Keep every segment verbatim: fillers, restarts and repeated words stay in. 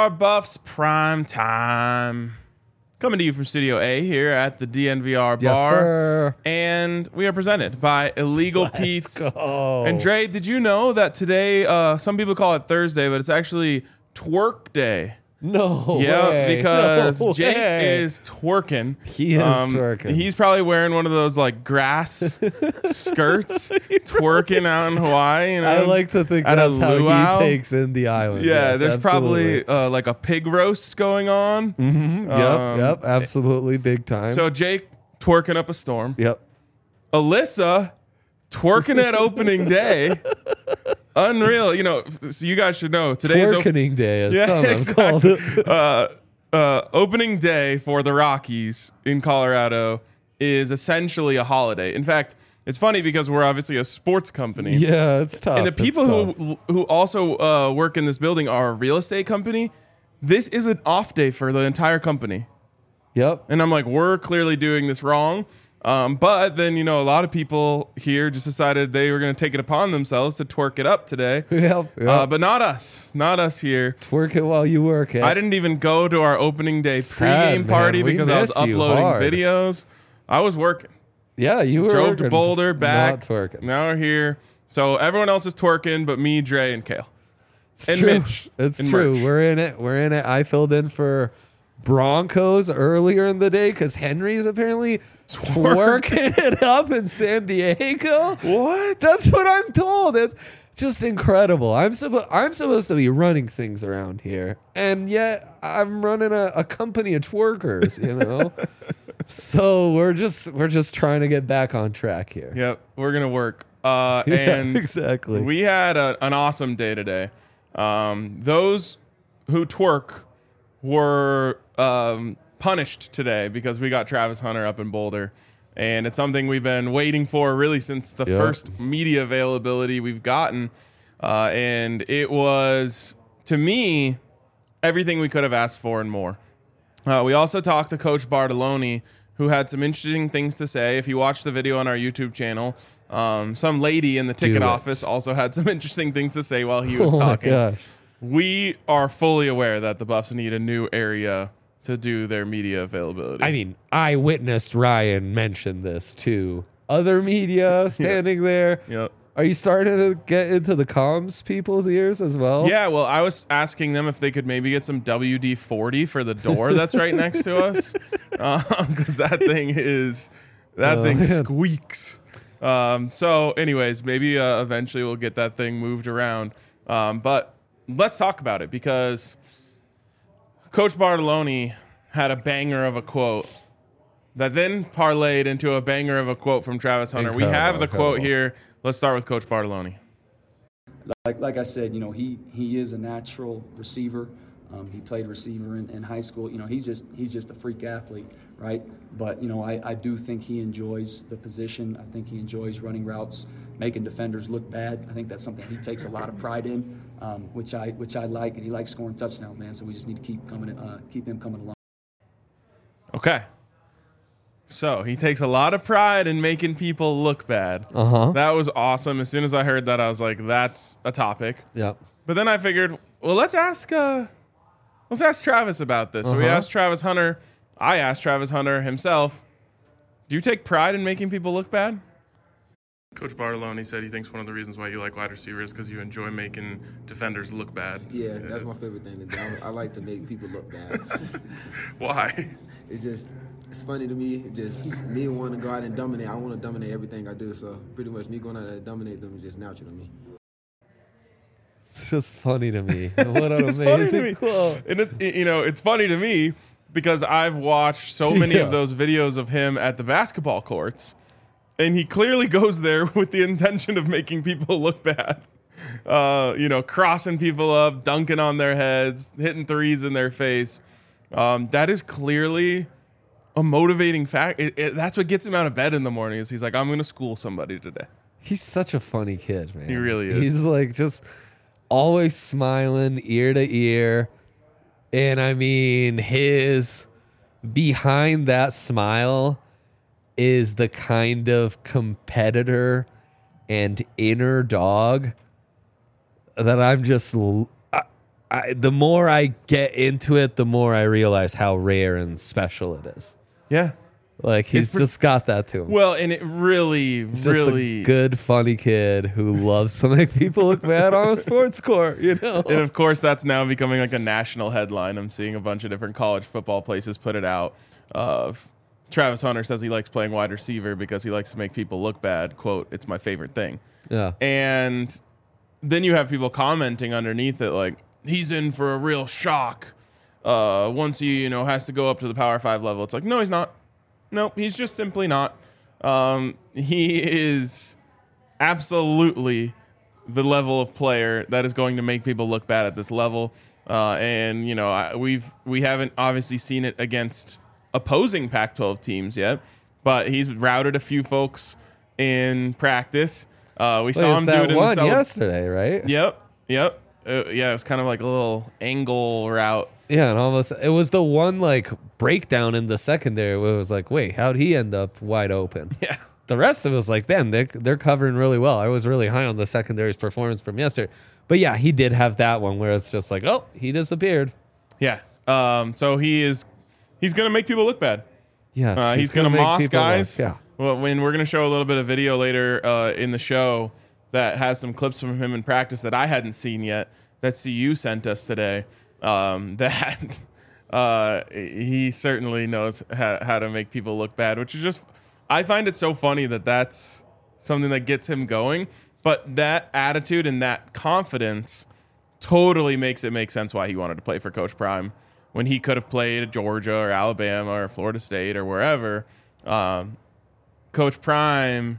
R Buffs Prime Time. Coming to you from Studio A here at the D N V R Yes, bar. sir. And we are presented by Illegal Let's Pete's. go. And Dre, did you know that today, uh, some people call it Thursday, but it's actually Twerk Day? No Yeah, way. because No Jake way. is twerking. He is twerking. He's probably wearing one of those like grass skirts, twerking out in Hawaii. You know, I like to think at a that's how luau. he takes in the island. Yeah, Yes, there's absolutely. probably uh, like a pig roast going on. Mm-hmm. Yep, Um, yep, absolutely, big time. So Jake twerking up a storm. yep. Alyssa twerking at opening day. Unreal. You know, so you guys should know today is op- Twerkening day, as Yeah, some have called exactly. it. uh, uh, opening day for the Rockies in Colorado is essentially a holiday. In fact, it's funny because we're obviously a sports company. Yeah, it's tough. And the It's people tough. who who also uh, work in this building are a real estate company. This is an off day for the entire company. Yep. And I'm like, we're clearly doing this wrong. Um, but then, you know, a lot of people here just decided they were going to take it upon themselves to twerk it up today. Yep. yep. Uh, but not us. Not us here. Twerk it while you work it. I didn't even go to our opening day Sad, pregame party man. We because I was missed you uploading hard. videos. I was working. Yeah, you were Drove to working, Boulder, back. Not twerking. Now we're here. So everyone else is twerking, but me, Dre, and Kale. It's and true. Mitch. It's and true. Merch. We're in it. We're in it. I filled in for Broncos earlier in the day because Henry's apparently twerking it up in San Diego. What? That's what I'm told. It's just incredible. I'm supposed I'm supposed to be running things around here, and yet I'm running a, a company of twerkers. You know. So we're just we're just trying to get back on track here. Yep, we're gonna work. Uh, Yeah, and exactly. we had a, an awesome day today. Um, those who twerk were um, punished today because we got Travis Hunter up in Boulder, and it's something we've been waiting for really since the Yep. first media availability we've gotten. Uh, and it was, to me, everything we could have asked for and more. Uh, we also talked to Coach Bartoloni, who had some interesting things to say. If you watch the video on our YouTube channel, um, some lady in the ticket it. office also had some interesting things to say while he was Oh my talking. gosh. We are fully aware that the Buffs need a new area to do their media availability. I mean, I witnessed Ryan mention this to other media standing there. Yep. Are you starting to get into the comms people's ears as well? Yeah, well, I was asking them if they could maybe get some W D forty for the door that's right next to us, because that thing is that Oh, thing man. squeaks. Um, so, anyways, maybe uh, eventually we'll get that thing moved around. Um, but let's talk about it because Coach Bartoloni had a banger of a quote that then parlayed into a banger of a quote from Travis Hunter. we Incredible, have the quote incredible. here. Let's start with Coach Bartoloni. Like like I said, you know, he he is a natural receiver. Um, he played receiver in, in high school. You know, he's just he's just a freak athlete, right? But you know, I, I do think he enjoys the position. I think he enjoys running routes, making defenders look bad. I think that's something he takes a lot of pride in, um, which I which I like, and he likes scoring touchdowns, man. So we just need to keep coming, uh, keep him coming along. Okay. So he takes a lot of pride in making people look bad. Uh huh. That was awesome. As soon as I heard that, I was like, that's a topic. Yep. But then I figured, well, let's ask uh, let's ask Travis about this. So we Uh-huh. asked Travis Hunter. I asked Travis Hunter himself, do you take pride in making people look bad? Coach Bartoloni said he thinks one of the reasons why you like wide receivers is because you enjoy making defenders look bad. Yeah, that's my favorite thing to do. I I like to make people look bad. Why? It's just, it's funny to me. It's just me wanting to go out and dominate. I want to dominate everything I do. So pretty much me going out and dominate them is just natural to me. It's just funny to me. What It's an just funny to amazing me. quote. And it, it- you know, it's funny to me because I've watched so many Yeah. of those videos of him at the basketball courts, and he clearly goes there with the intention of making people look bad. Uh, you know, crossing people up, dunking on their heads, hitting threes in their face. Um, that is clearly a motivating fact. It, it, that's what gets him out of bed in the morning. Is he's like, I'm going to school somebody today. He's such a funny kid, man. He really is. He's like just always smiling ear to ear. And I mean, his behind that smile is the kind of competitor and inner dog that I'm just, l- I, I, the more I get into it, the more I realize how rare and special it is. Yeah. Like he's pre- just got that to him. Well, and it really, He's really just a good, funny kid who loves to make people look bad on a sports court. You know. And of course, that's now becoming like a national headline. I'm seeing a bunch of different college football places put it out. Of Travis Hunter says he likes playing wide receiver because he likes to make people look bad. Quote, "It's my favorite thing." Yeah. And then you have people commenting underneath it like, he's in for a real shock uh, once he, you know, has to go up to the Power Five level. It's like, no, he's not. Nope, he's just simply not. Um, he is absolutely the level of player that is going to make people look bad at this level. Uh, and, you know, I, we've, we haven't obviously seen it against opposing Pac twelve teams yet, but he's routed a few folks in practice. Uh, we Well, saw it's him do that it in one the cele- yesterday, right? Yep, yep. Uh, yeah, it was kind of like a little angle route. Yeah, and almost it was the one like breakdown in the secondary where it was like, wait, how'd he end up wide open? Yeah. The rest of it was like, then they're, they're covering really well. I was really high on the secondary's performance from yesterday. But yeah, he did have that one where it's just like, oh, he disappeared. Yeah. Um, so he is, he's going to make people look bad. Yes, Uh, he's, going to make moss people look- guys. Yeah. Well, when we're going to show a little bit of video later uh, in the show that has some clips from him in practice that I hadn't seen yet, that C U sent us today. Um, that uh, he certainly knows how, how to make people look bad, which is just, I find it so funny that that's something that gets him going. But that attitude and that confidence totally makes it make sense why he wanted to play for Coach Prime when he could have played at Georgia or Alabama or Florida State or wherever. Um, Coach Prime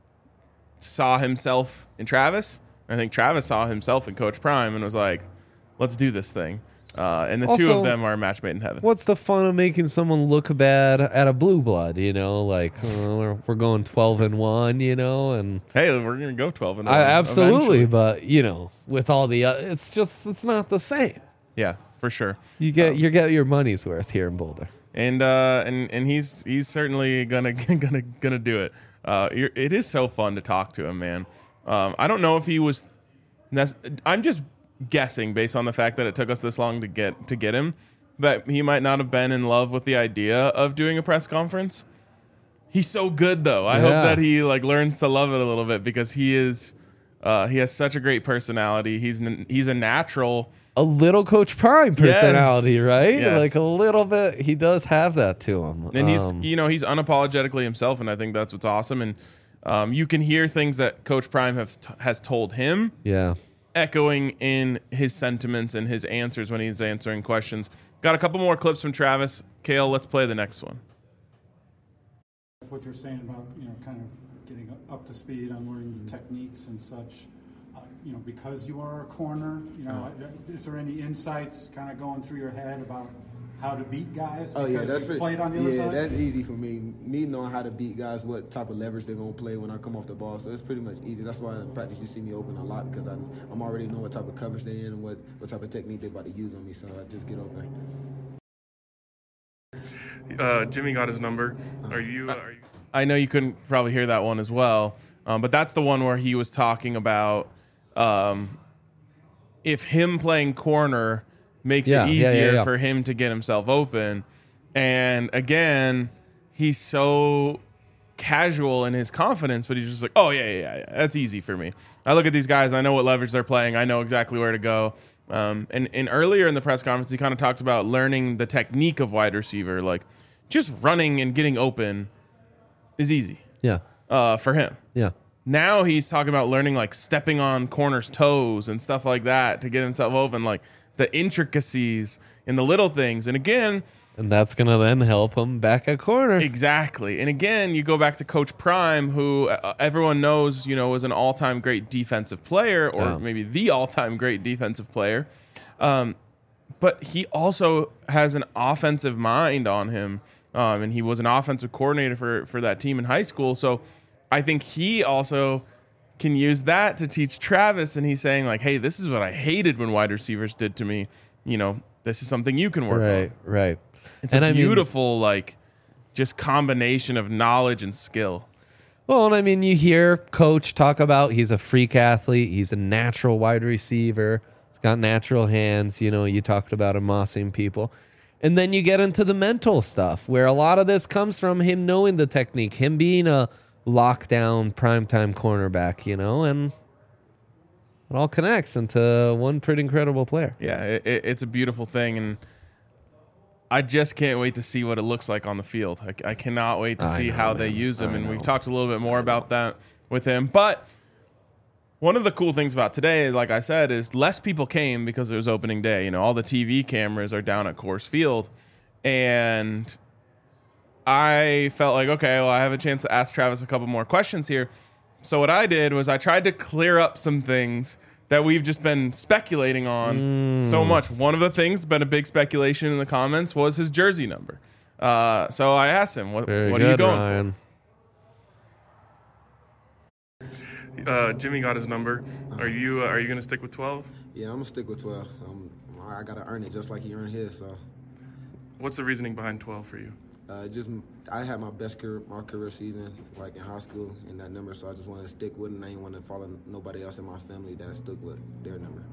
saw himself in Travis. I think Travis saw himself in Coach Prime and was like, let's do this thing. Uh, and the two Also, of them are a match made in heaven. What's the fun of making someone look bad at a blue blood? You know, like uh, we're, we're going twelve and one. You know, and Hey, we're going to go twelve and I, one absolutely, eventually. but you know, with all the, uh, it's just it's not the same. Yeah, for sure. You get you get your money's worth here in Boulder. And uh, and and he's he's certainly gonna gonna gonna do it. Uh, you're, it is so fun to talk to him, man. Um, I don't know if he was. Nec- I'm just guessing based on the fact that it took us this long to get to get him, that he might not have been in love with the idea of doing a press conference. He's so good though. I Yeah. hope that he like learns to love it a little bit because he is. Uh, he has such a great personality. He's n- he's a natural. A little Coach Prime personality, Yes. right? Yes. Like a little bit. He does have that to him. And he's, Um, you know, he's unapologetically himself, and I think that's what's awesome. And um, you can hear things that Coach Prime have t- has told him, yeah. echoing in his sentiments and his answers when he's answering questions. Got a couple more clips from Travis. Kale, let's play the next one. What you're saying about, you know, kind of getting up to speed on learning the techniques and such, uh, you know, because you are a corner, you know, is there any insights kind of going through your head about how to beat guys? Oh Because yeah, that's you pretty, played on the other yeah, side? that's easy for me. Me knowing how to beat guys, what type of leverage they're gonna play when I come off the ball, so it's pretty much easy. That's why in practice you see me open a lot because I'm, I'm already know what type of coverage they're in and what, what type of technique they're about to use on me, so I just get open. Uh, Jimmy got his number. Are you, uh, are you? I know you couldn't probably hear that one as well, um, but that's the one where he was talking about um, if him playing corner makes Yeah, it yeah, easier yeah, yeah. for him to get himself open. And again, he's so casual in his confidence, but he's just like, oh, yeah, yeah, yeah, yeah, that's easy for me. I look at these guys, I know what leverage they're playing, I know exactly where to go. Um, and, and earlier in the press conference, he kind of talked about learning the technique of wide receiver. Like, just running and getting open is easy Yeah. uh, for him. Yeah. Now he's talking about learning, like, stepping on corners' toes and stuff like that to get himself open, like the intricacies and the little things. And again, And that's going to then help him back at corner. exactly. And again, you go back to Coach Prime, who uh, everyone knows, you know, was an all-time great defensive player, or Yeah. maybe the all-time great defensive player. Um, but he also has an offensive mind on him, um, and he was an offensive coordinator for for that team in high school. So I think he also can use that to teach Travis. And he's saying like, "Hey, this is what I hated when wide receivers did to me. You know, this is something you can work Right, on." right. It's And a I mean- beautiful, like, just combination of knowledge and skill. Well, and I mean, you hear Coach talk about he's a freak athlete. He's a natural wide receiver. He's got natural hands. You know, you talked about him mossing people. And then you get into the mental stuff where a lot of this comes from him knowing the technique, him being a lockdown primetime cornerback, you know, and it all connects into one pretty incredible player. Yeah, it, it, it's a beautiful thing, and I just can't wait to see what it looks like on the field. I, I cannot wait to I see know, how man. they use him, I and know. we've talked a little bit more about that with him. But one of the cool things about today, like I said, is less people came because it was opening day. You know, all the T V cameras are down at Coors Field, and I felt like, okay, well, I have a chance to ask Travis a couple more questions here. So what I did was I tried to clear up some things that we've just been speculating on Mm. so much. One of the things been a big speculation in the comments was his jersey number. Uh, so I asked him, what, Very what good, are you going Ryan. for? Uh, Jimmy got his number. Are you uh, are you going to stick with twelve? Yeah, I'm gonna stick with twelve. Um, I gotta earn it just like he earned his. So, What's the reasoning behind twelve for you? uh, just I had my best career, my career season like in high school in that number. So I just wanted to stick with it. And I didn't want to follow nobody else in my family that stuck with their number.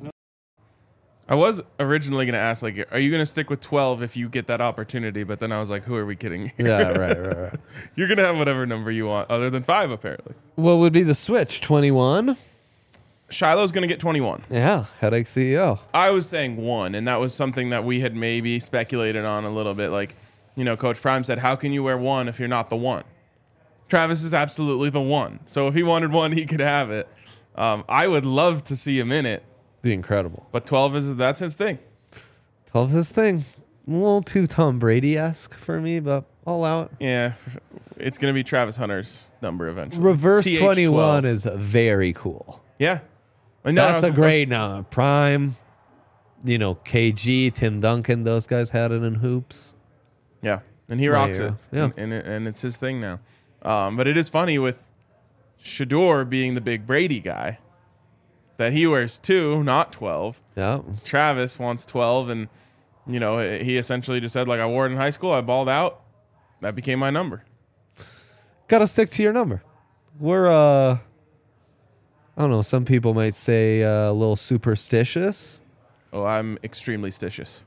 I was originally going to ask, like, are you going to stick with twelve if you get that opportunity? But then I was like, who are we kidding here? Yeah, right, right, right. You're going to have whatever number you want other than five, apparently. What would be the switch? twenty-one? Shiloh's going to get twenty-one. Yeah, headache C E O. I was saying one, and that was something that we had maybe speculated on a little bit. Like, you know, Coach Prime said, how can you wear one if you're not the one? Travis is absolutely the one. So if he wanted one, he could have it. Um, I would love to see him in it, Be incredible. but twelve is that's his thing. twelve's his thing. A little too Tom Brady-esque for me, but I'll allow it. Yeah, it's going to be Travis Hunter's number eventually. Reverse T H twenty-one twelve. is very cool. Yeah. I know, I That's was a great number. Prime, you know, K G, Tim Duncan, those guys had it in hoops. Yeah, and he Right, rocks yeah. it. Yeah. And, and, it, and it's his thing now. Um, but it is funny with Shador being the big Brady guy that he wears two, not twelve. Yeah. Travis wants twelve, and, you know, he essentially just said, like, I wore it in high school. I balled out. That became my number. Got to stick to your number. We're, uh, I don't know, some people might say uh, a little superstitious. Oh, I'm extremely stitious.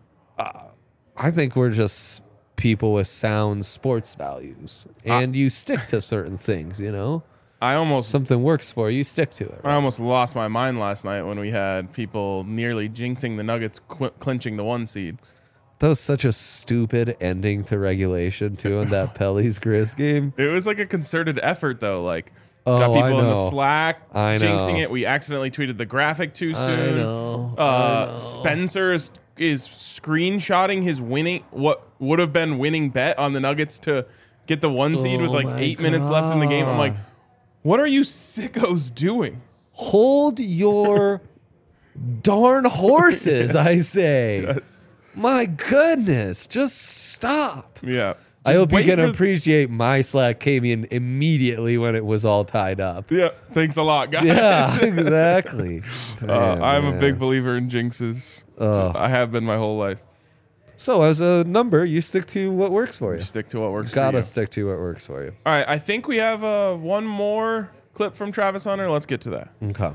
I think we're just people with sound sports values. And you stick to certain things, you know? I almost Something works for you, you stick to it. I almost lost my mind last night when we had people nearly jinxing the Nuggets qu- clinching the one seed. That was such a stupid ending to regulation, too, in that Pelly's Grizz game. It was like a concerted effort, though. Like, Oh, got I people in the know. Slack I jinxing know. it. We accidentally tweeted the graphic too I soon. know. I Uh, know. Spencer is, is screenshotting his winning, what would have been winning bet on the Nuggets to get the one seed with Oh like my eight minutes left in the game. I'm like, God. what are you sickos doing? Hold your darn horses, I say. That's, My goodness, just stop. yeah. I Just hope you wait can for- appreciate my Slack came in immediately when it was all tied up. Yeah. Thanks a lot, guys. Yeah, exactly. Uh, Damn, I'm a man. big believer in jinxes. Ugh. I have been my whole life. So as a number, you stick to what works for you. Stick to what works for Gotta you. stick to what works for you. All right, I think we have uh, one more clip from Travis Hunter. Let's get to that. Okay.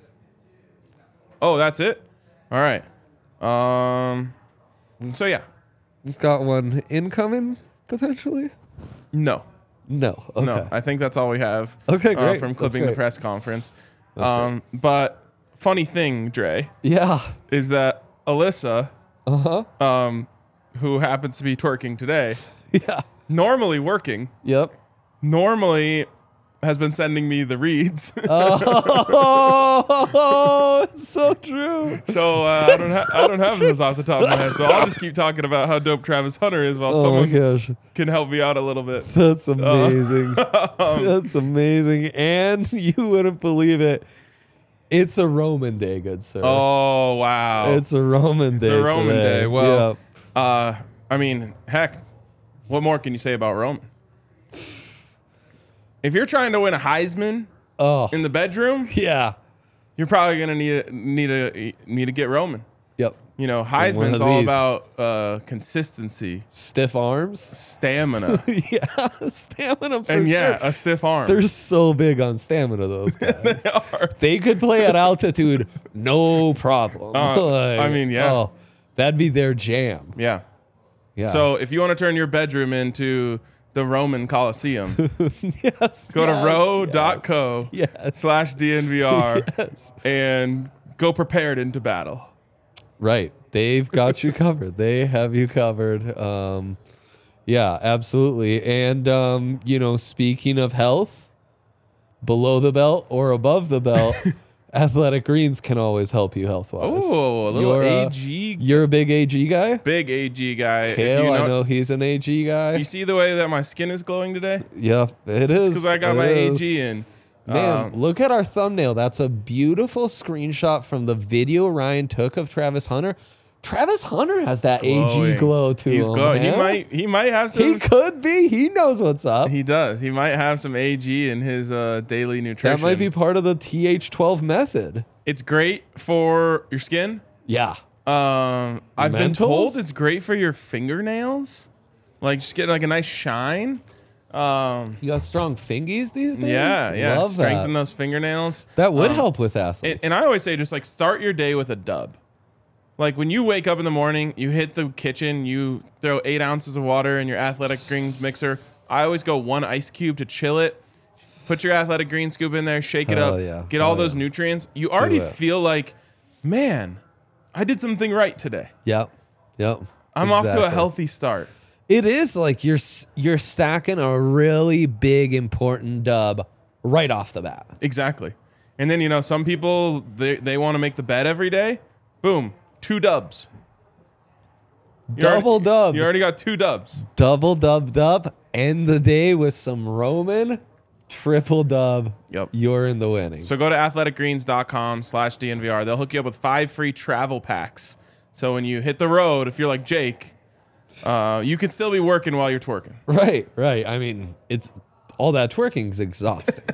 Oh, that's it? All right. Um. So, yeah. We've got one incoming, potentially? No. No. Okay. No. I think that's all we have Okay, uh, great. from That's clipping the great. press conference. That's um, But funny thing, Dre, Yeah. is that Alyssa, Uh-huh. um, who happens to be twerking today, Yeah. normally working, Yep. normally has been sending me the reads. Oh, it's so true. So uh, I don't ha- I don't have those off the top of my head. So I'll just keep talking about how dope Travis Hunter is while Oh my someone gosh. can help me out a little bit. That's amazing. Um, That's amazing. And you wouldn't believe it. It's a Roman day, good sir. Oh wow! It's a Roman day. It's a Roman today. day. Well, Yep. uh, I mean, heck, what more can you say about Roman? If you're trying to win a Heisman Oh, in the bedroom, yeah. you're probably gonna need a, need a need to get Roman. Yep. You know, one Heisman's of all these. about uh, consistency, Stiff arms. stamina, Yeah, stamina for and yeah, sure. a stiff arm. They're so big on stamina, those guys. they are. They could play at altitude, no problem. Uh, Like, I mean, yeah. Oh, that'd be their jam. Yeah. Yeah. So if you want to turn your bedroom into the Roman Colosseum, yes. go to yes, row dot co Yes. slash D N V R Yes. and go prepared into battle. Right. They've got you covered. They have you covered. Um, yeah, absolutely. And, um, you know, speaking of health, below the belt or above the belt, Athletic Greens can always help you health wise. Oh, a little you're, uh, A G, You're a big A G guy? big A G guy. If Hell, you I know he's an A G guy. You see the way that my skin is glowing today? Yeah, it is. Because I got It my is. A G in. Man, Um, look at our thumbnail. That's a beautiful screenshot from the video Ryan took of Travis Hunter. Travis Hunter has that A G glowing. glow to He's him. glowing. He man. might. He might have some. He could be. He knows what's up. He does. He might have some A G in his uh, daily nutrition. That might be part of the T H twelve method. It's great for your skin. Yeah. Um, I've been Mentals? told it's great for your fingernails. Like just get like a nice shine. Um, You got strong fingies these days? yeah, yeah. Love Strengthen that. those fingernails. That would Um, help with And, athletes. and I always say, just like start your day with a dub. Like when you wake up in the morning, you hit the kitchen, you throw eight ounces of water in your Athletic Greens mixer. I always go one ice cube to chill it. Put your Athletic Green scoop in there, shake it Hell up, yeah. get all Hell those yeah. nutrients. You already it. feel like, man, I did something right today. Yep. Yep. I'm off to a Exactly. healthy start. It is like you're s- you're stacking a really big important dub right off the bat. Exactly. And then, you know, some people, they, they want to make the bed every day. Boom, two dubs. You Double already, dub. You already got two dubs. Double dub dub. End the day with some Roman. Triple dub. Yep. You're in the winning. So go to athleticgreens.com slash DNVR. They'll hook you up with five free travel packs. So when you hit the road, if you're like Jake, uh, you can still be working while you're twerking. Right, right. I mean, it's all that twerking's exhausting.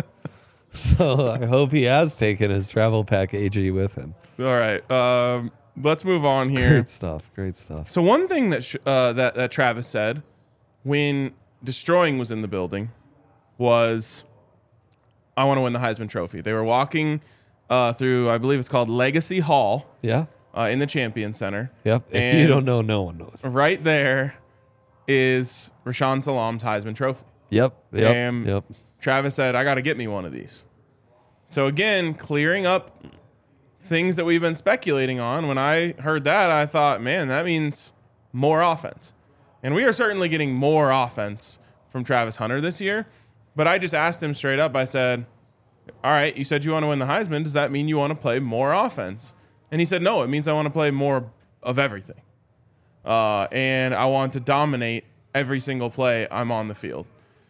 So I hope he has taken his travel pack A G with him. All right. Um, let's move on here. Great stuff. Great stuff. So one thing that, sh- uh, that that Travis said when Destroying was in the building was, I want to win the Heisman Trophy. They were walking uh, through, I believe it's called Legacy Hall Yeah. uh, in the Champion Center. Yep. If And you don't know, no one knows. right there is Rashawn Salam's Heisman Trophy. Yep. Yep. And Yep. Travis said, I got to get me one of these. So again, clearing up things that we've been speculating on. When I heard that, I thought, man, that means more offense. And we are certainly getting more offense from Travis Hunter this year. But I just asked him straight up. I said, all right, you said you want to win the Heisman. Does that mean you want to play more offense? And he said, no, it means I want to play more of everything. Uh, and I want to dominate every single play I'm on the field.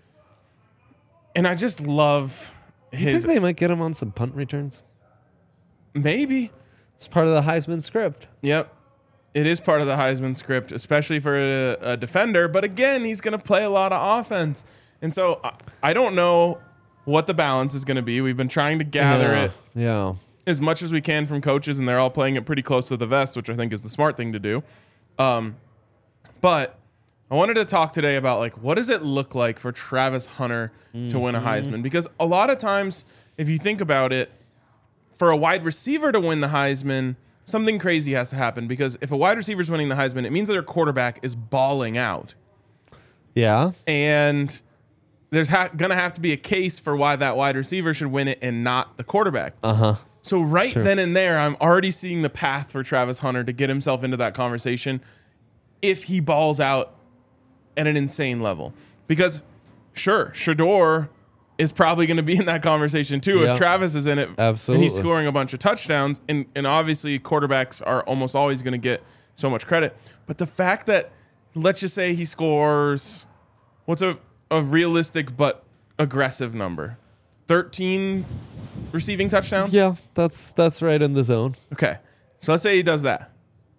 And I just love You his, think they might get him on some punt returns? maybe. It's part of the Heisman script. Yep. It is part of the Heisman script, especially for a, a defender. But again, he's going to play a lot of offense. And so I, I don't know what the balance is going to be. We've been trying to gather yeah. it Yeah. as much as we can from coaches, and they're all playing it pretty close to the vest, which I think is the smart thing to do. Um, but I wanted to talk today about, like, what does it look like for Travis Hunter mm-hmm. to win a Heisman? Because a lot of times, if you think about it, for a wide receiver to win the Heisman, something crazy has to happen. Because if a wide receiver is winning the Heisman, it means that their quarterback is balling out. Yeah. And there's ha- going to have to be a case for why that wide receiver should win it and not the quarterback. Uh-huh. So right Sure. then and there, I'm already seeing the path for Travis Hunter to get himself into that conversation if he balls out at an insane level. Because, sure, Shador is probably going to be in that conversation too Yeah. if Travis is in it. Absolutely. And he's scoring a bunch of touchdowns. And, and obviously, quarterbacks are almost always going to get so much credit. But the fact that, let's just say he scores, what's a, a realistic but aggressive number? thirteen receiving touchdowns? Yeah, that's that's right in the zone. Okay. So let's say he does that.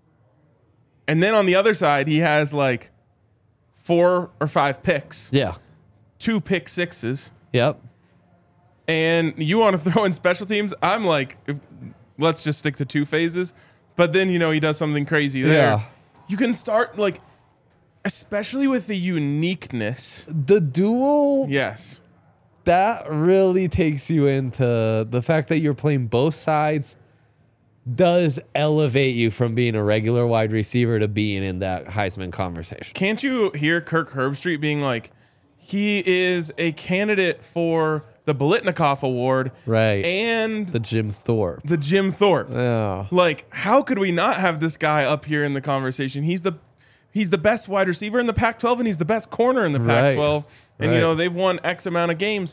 And then on the other side, he has like four or five picks, Yeah. two pick sixes, Yep. and you want to throw in special teams. I'm like, if, let's just stick to two phases. But then, you know, he does something crazy there. Yeah. You can start, like, especially with the uniqueness. The duel, Yes. that really takes you into the fact that you're playing both sides does elevate you from being a regular wide receiver to being in that Heisman conversation. Can't you hear Kirk Herbstreit being like, he is a candidate for the Biletnikoff Award. Right. And The Jim Thorpe. the Jim Thorpe. Yeah. Like, how could we not have this guy up here in the conversation? He's the he's the best wide receiver in the Pac twelve, and he's the best corner in the Pac twelve. And, Right. you know, they've won X amount of games.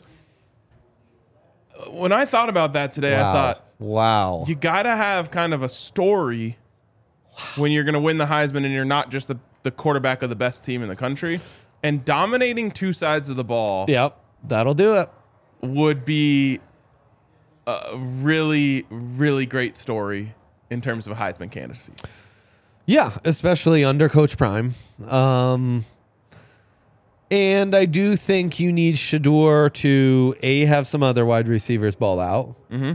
When I thought about that today, Wow. I thought, wow. you got to have kind of a story when you're going to win the Heisman and you're not just the, the quarterback of the best team in the country. And dominating two sides of the ball Yep. That'll do it. would be a really, really great story in terms of Heisman candidacy. Yeah, especially under Coach Prime. Um, and I do think you need Shador to, A, have some other wide receivers ball out. Mm-hmm.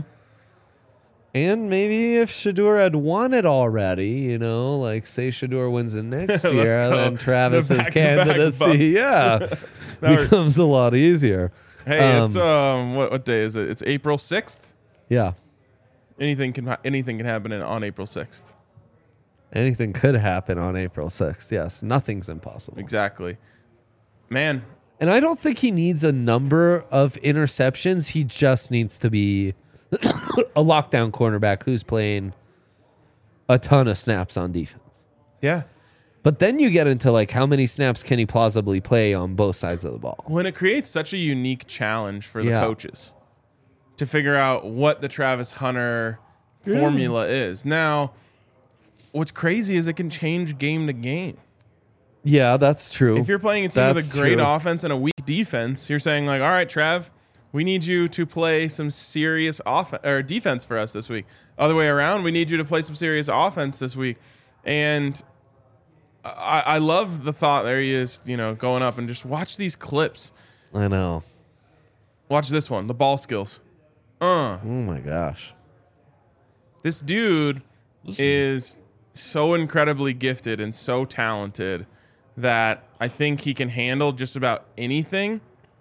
And maybe if Shador had won it already, you know, like say Shador wins it next Let's year, go. then Travis's The back-to-back candidacy, bump. yeah, That becomes a lot easier. Hey, Um, it's um, what what day is it? It's April sixth. Yeah, Anything can ha- anything can happen in, on April sixth. anything could happen on April sixth. Yes, nothing's impossible. Exactly, man. And I don't think he needs a number of interceptions. He just needs to be a lockdown cornerback who's playing a ton of snaps on defense. Yeah. But then you get into like how many snaps can he plausibly play on both sides of the ball? When it creates such a unique challenge for the Yeah. coaches to figure out what the Travis Hunter formula is. Now, what's crazy is it can change game to game. Yeah, that's true. If you're playing a team with That's a great true. offense and a weak defense, you're saying like, all right, Trav, we need you to play some serious offense or defense for us this week. Other way around, we need you to play some serious offense this week. And I, I love the thought. There he is, you know, going up and just watch these clips. I know. Watch this one, the ball skills. Uh, Oh my gosh. this dude is so incredibly gifted and so talented that I think he can handle just about anything.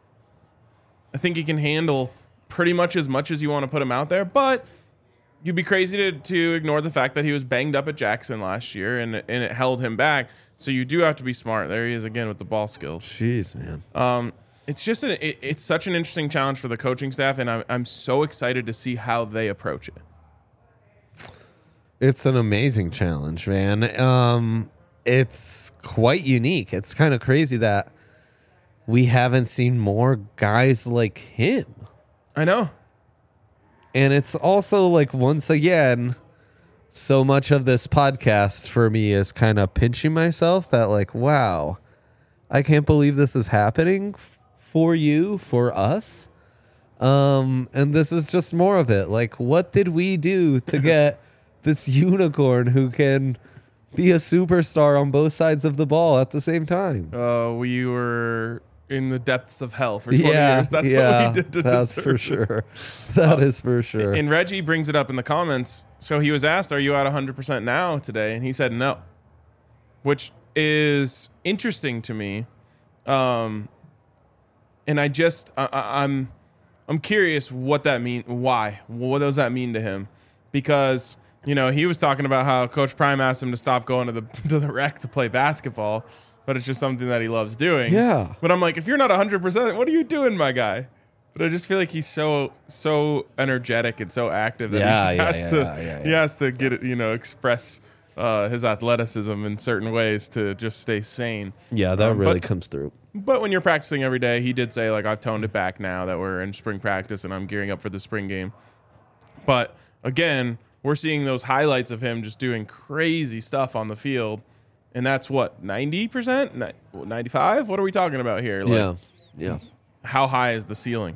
I think he can handle pretty much as much as you want to put him out there, but you'd be crazy to, to ignore the fact that he was banged up at Jackson last year and, and it held him back. So you do have to be smart. There he is again with the ball skills. Jeez, man. Um, it's just a, it, it's such an interesting challenge for the coaching staff, and I'm, I'm so excited to see how they approach it. It's an amazing challenge, man. Um, it's quite unique. It's kind of crazy that we haven't seen more guys like him. I know. And it's also like, once again, so much of this podcast for me is kind of pinching myself that like, wow, I can't believe this is happening f- for you, for us. Um, and this is just more of it. Like, what did we do to get this unicorn who can be a superstar on both sides of the ball at the same time? Uh, we were in the depths of hell for twenty Yeah, years. That's yeah, what we did to that's deserve for it. sure. That is for sure. And Reggie brings it up in the comments. So he was asked, "Are you at one hundred percent now today?" And he said no, which is interesting to me. Um, and I just I, I, I'm I'm curious what that mean. Why? What does that mean to him? Because you know he was talking about how Coach Prime asked him to stop going to the to the rec to play basketball, but it's just something that he loves doing. Yeah. But I'm like, if you're not one hundred percent, what are you doing, my guy? But I just feel like he's so so energetic and so active that Yeah, he just yeah, has yeah, to yeah, yeah, he yeah. has to get it, you know, express uh, his athleticism in certain ways to just stay sane. Yeah, that Um, really but- comes through. But when you're practicing every day, he did say like I've toned it back now that we're in spring practice and I'm gearing up for the spring game. But again, we're seeing those highlights of him just doing crazy stuff on the field. And that's what, ninety percent? ninety-five? What are we talking about here? Like, Yeah. Yeah. how high is the ceiling?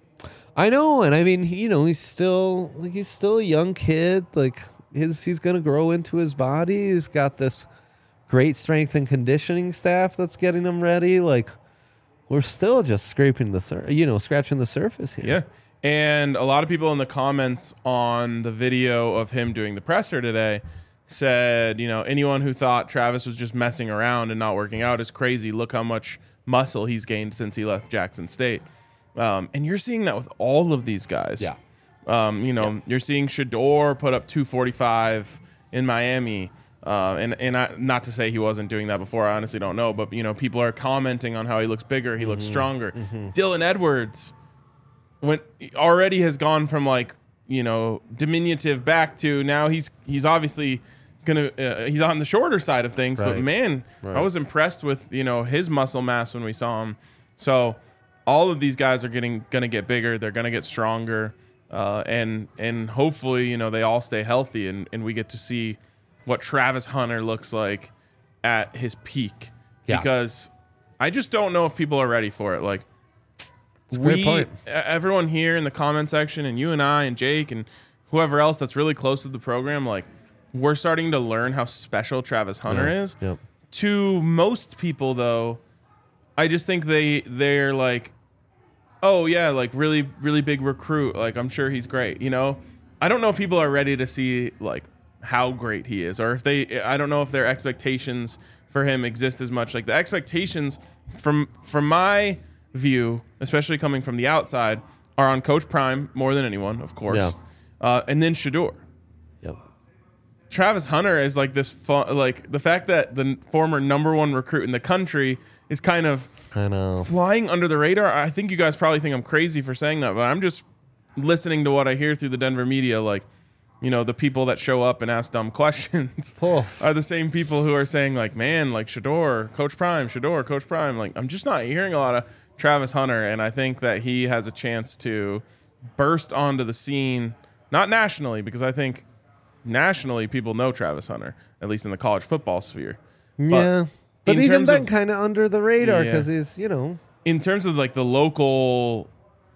I know, and I mean, you know, he's still like he's still a young kid. Like his he's gonna grow into his body. He's got this great strength and conditioning staff that's getting him ready. Like we're still just scraping the sur- you know, scratching the surface here. Yeah. And a lot of people in the comments on the video of him doing the presser today said, you know, anyone who thought Travis was just messing around and not working out is crazy. Look how much muscle he's gained since he left Jackson State. Um, and you're seeing that with all of these guys. Yeah. Um, you know, yeah. You're seeing Shedeur put up two forty-five in Miami. Uh, and and I, not to say he wasn't doing that before. I honestly don't know. But, you know, people are commenting on how he looks bigger. He mm-hmm. looks stronger. Mm-hmm. Dylan Edwards went, already has gone from, like, you know, diminutive back to now he's he's obviously going to, uh, he's on the shorter side of things. Right. But, man, right. I was impressed with, you know, his muscle mass when we saw him. So all of these guys are getting going to get bigger. They're going to get stronger. Uh, and and hopefully, you know, they all stay healthy and, and we get to see what Travis Hunter looks like at his peak. Yeah. Because I just don't know if people are ready for it. Like, it's a we, great point. Everyone here in the comment section and you and I and Jake and whoever else that's really close to the program, like, we're starting to learn how special Travis Hunter yeah. is. Yep. To most people, though, I just think they, they're like, oh, yeah, like, really, really big recruit. Like, I'm sure he's great, you know? I don't know if people are ready to see, like, how great he is, or if they, I don't know if their expectations for him exist as much. Like the expectations from from my view, especially coming from the outside, are on Coach Prime more than anyone, of course, yeah. uh, and then Shedeur. Yep. Travis Hunter is like this fun, like the fact that the former number one recruit in the country is kind of I know. flying under the radar. I think you guys probably think I'm crazy for saying that, but I'm just listening to what I hear through the Denver media, like. You know, the people that show up and ask dumb questions oh. are the same people who are saying, like, man, like, Shedeur, Coach Prime, Shedeur, Coach Prime. Like, I'm just not hearing a lot of Travis Hunter, and I think that he has a chance to burst onto the scene, not nationally, because I think nationally people know Travis Hunter, at least in the college football sphere. Yeah. But, but even then, kind of under the radar, yeah. because he's, you know. In terms of, like, the local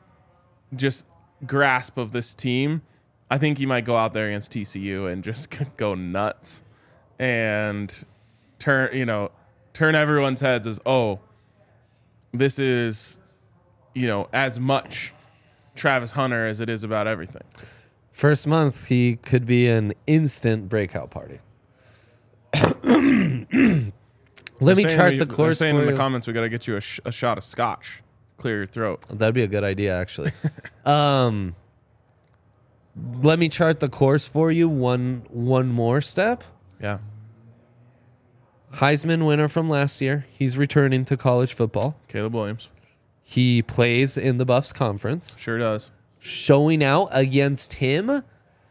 just grasp of this team, I think he might go out there against T C U and just go nuts and turn, you know, turn everyone's heads as, oh, this is, you know, as much Travis Hunter as it is about everything. First month, he could be an instant breakout party. Let me chart we, the course. They're saying for in the you. comments we got to get you a, sh- a shot of scotch, clear your throat. That'd be a good idea, actually. um. Let me chart the course for you one one more step. Yeah. Heisman winner from last year. He's returning to college football. Caleb Williams. He plays in the Buffs Conference. Sure does. Showing out against him,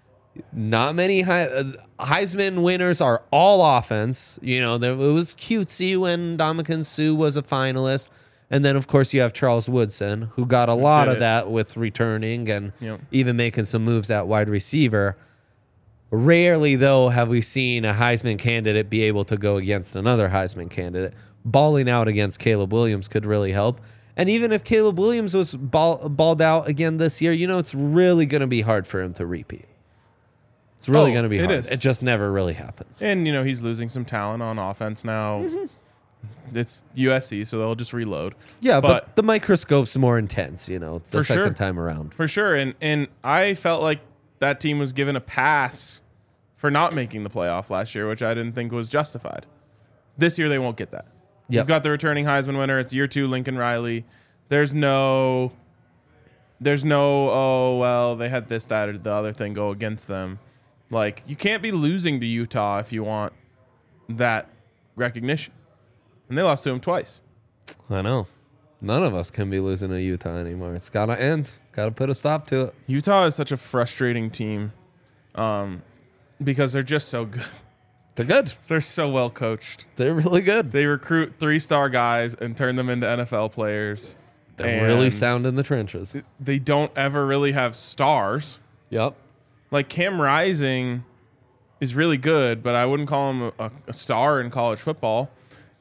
not many He- Heisman winners are all offense. You know, there, it was cutesy when Ndamukong Suh was a finalist. And then, of course, you have Charles Woodson, who got a lot of that with returning and yep. even making some moves at wide receiver. Rarely, though, have we seen a Heisman candidate be able to go against another Heisman candidate. Balling out against Caleb Williams could really help. And even if Caleb Williams was ball, balled out again this year, you know, it's really going to be hard for him to repeat. It's really oh, going to be it hard. Is. It just never really happens. And, you know, he's losing some talent on offense now. Mm-hmm. It's U S C, so they'll just reload. Yeah, but, but the microscope's more intense, you know, the second sure. time around. For sure. And and I felt like that team was given a pass for not making the playoff last year, which I didn't think was justified. This year, they won't get that. Yep. You've got the returning Heisman winner. It's year two, Lincoln Riley. There's no, there's no, oh, well, they had this, that, or the other thing go against them. Like, you can't be losing to Utah if you want that recognition. And they lost to him twice. I know. None of us can be losing to Utah anymore. It's got to end. Got to put a stop to it. Utah is such a frustrating team um, because they're just so good. They're good. They're so well coached. They're really good. They recruit three-star guys and turn them into N F L players. They're really sound in the trenches. They don't ever really have stars. Yep. Like Cam Rising is really good, but I wouldn't call him a, a star in college football.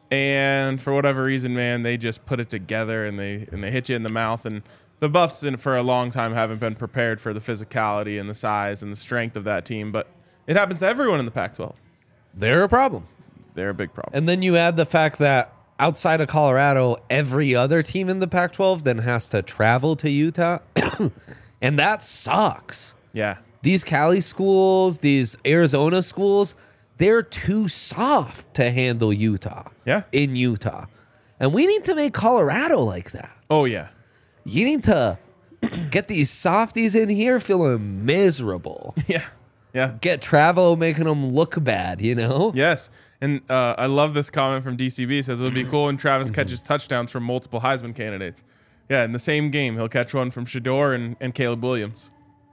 And for whatever reason, man, they just put it together and they and they hit you in the mouth. And the Buffs, in, for a long time, haven't been prepared for the physicality and the size and the strength of that team. But it happens to everyone in the Pac twelve. They're a problem. They're a big problem. And then you add the fact that outside of Colorado, every other team in the Pac twelve then has to travel to Utah. And that sucks. Yeah. These Cali schools, these Arizona schools, they're too soft to handle Utah. Yeah. In Utah. And we need to make Colorado like that. Oh, yeah. You need to get these softies in here feeling miserable. Yeah. Yeah. Get Travo making them look bad, you know? Yes. And uh, I love this comment from D C B. It says it would be cool when Travis catches touchdowns from multiple Heisman candidates. Yeah, in the same game, he'll catch one from Shador and, and Caleb Williams.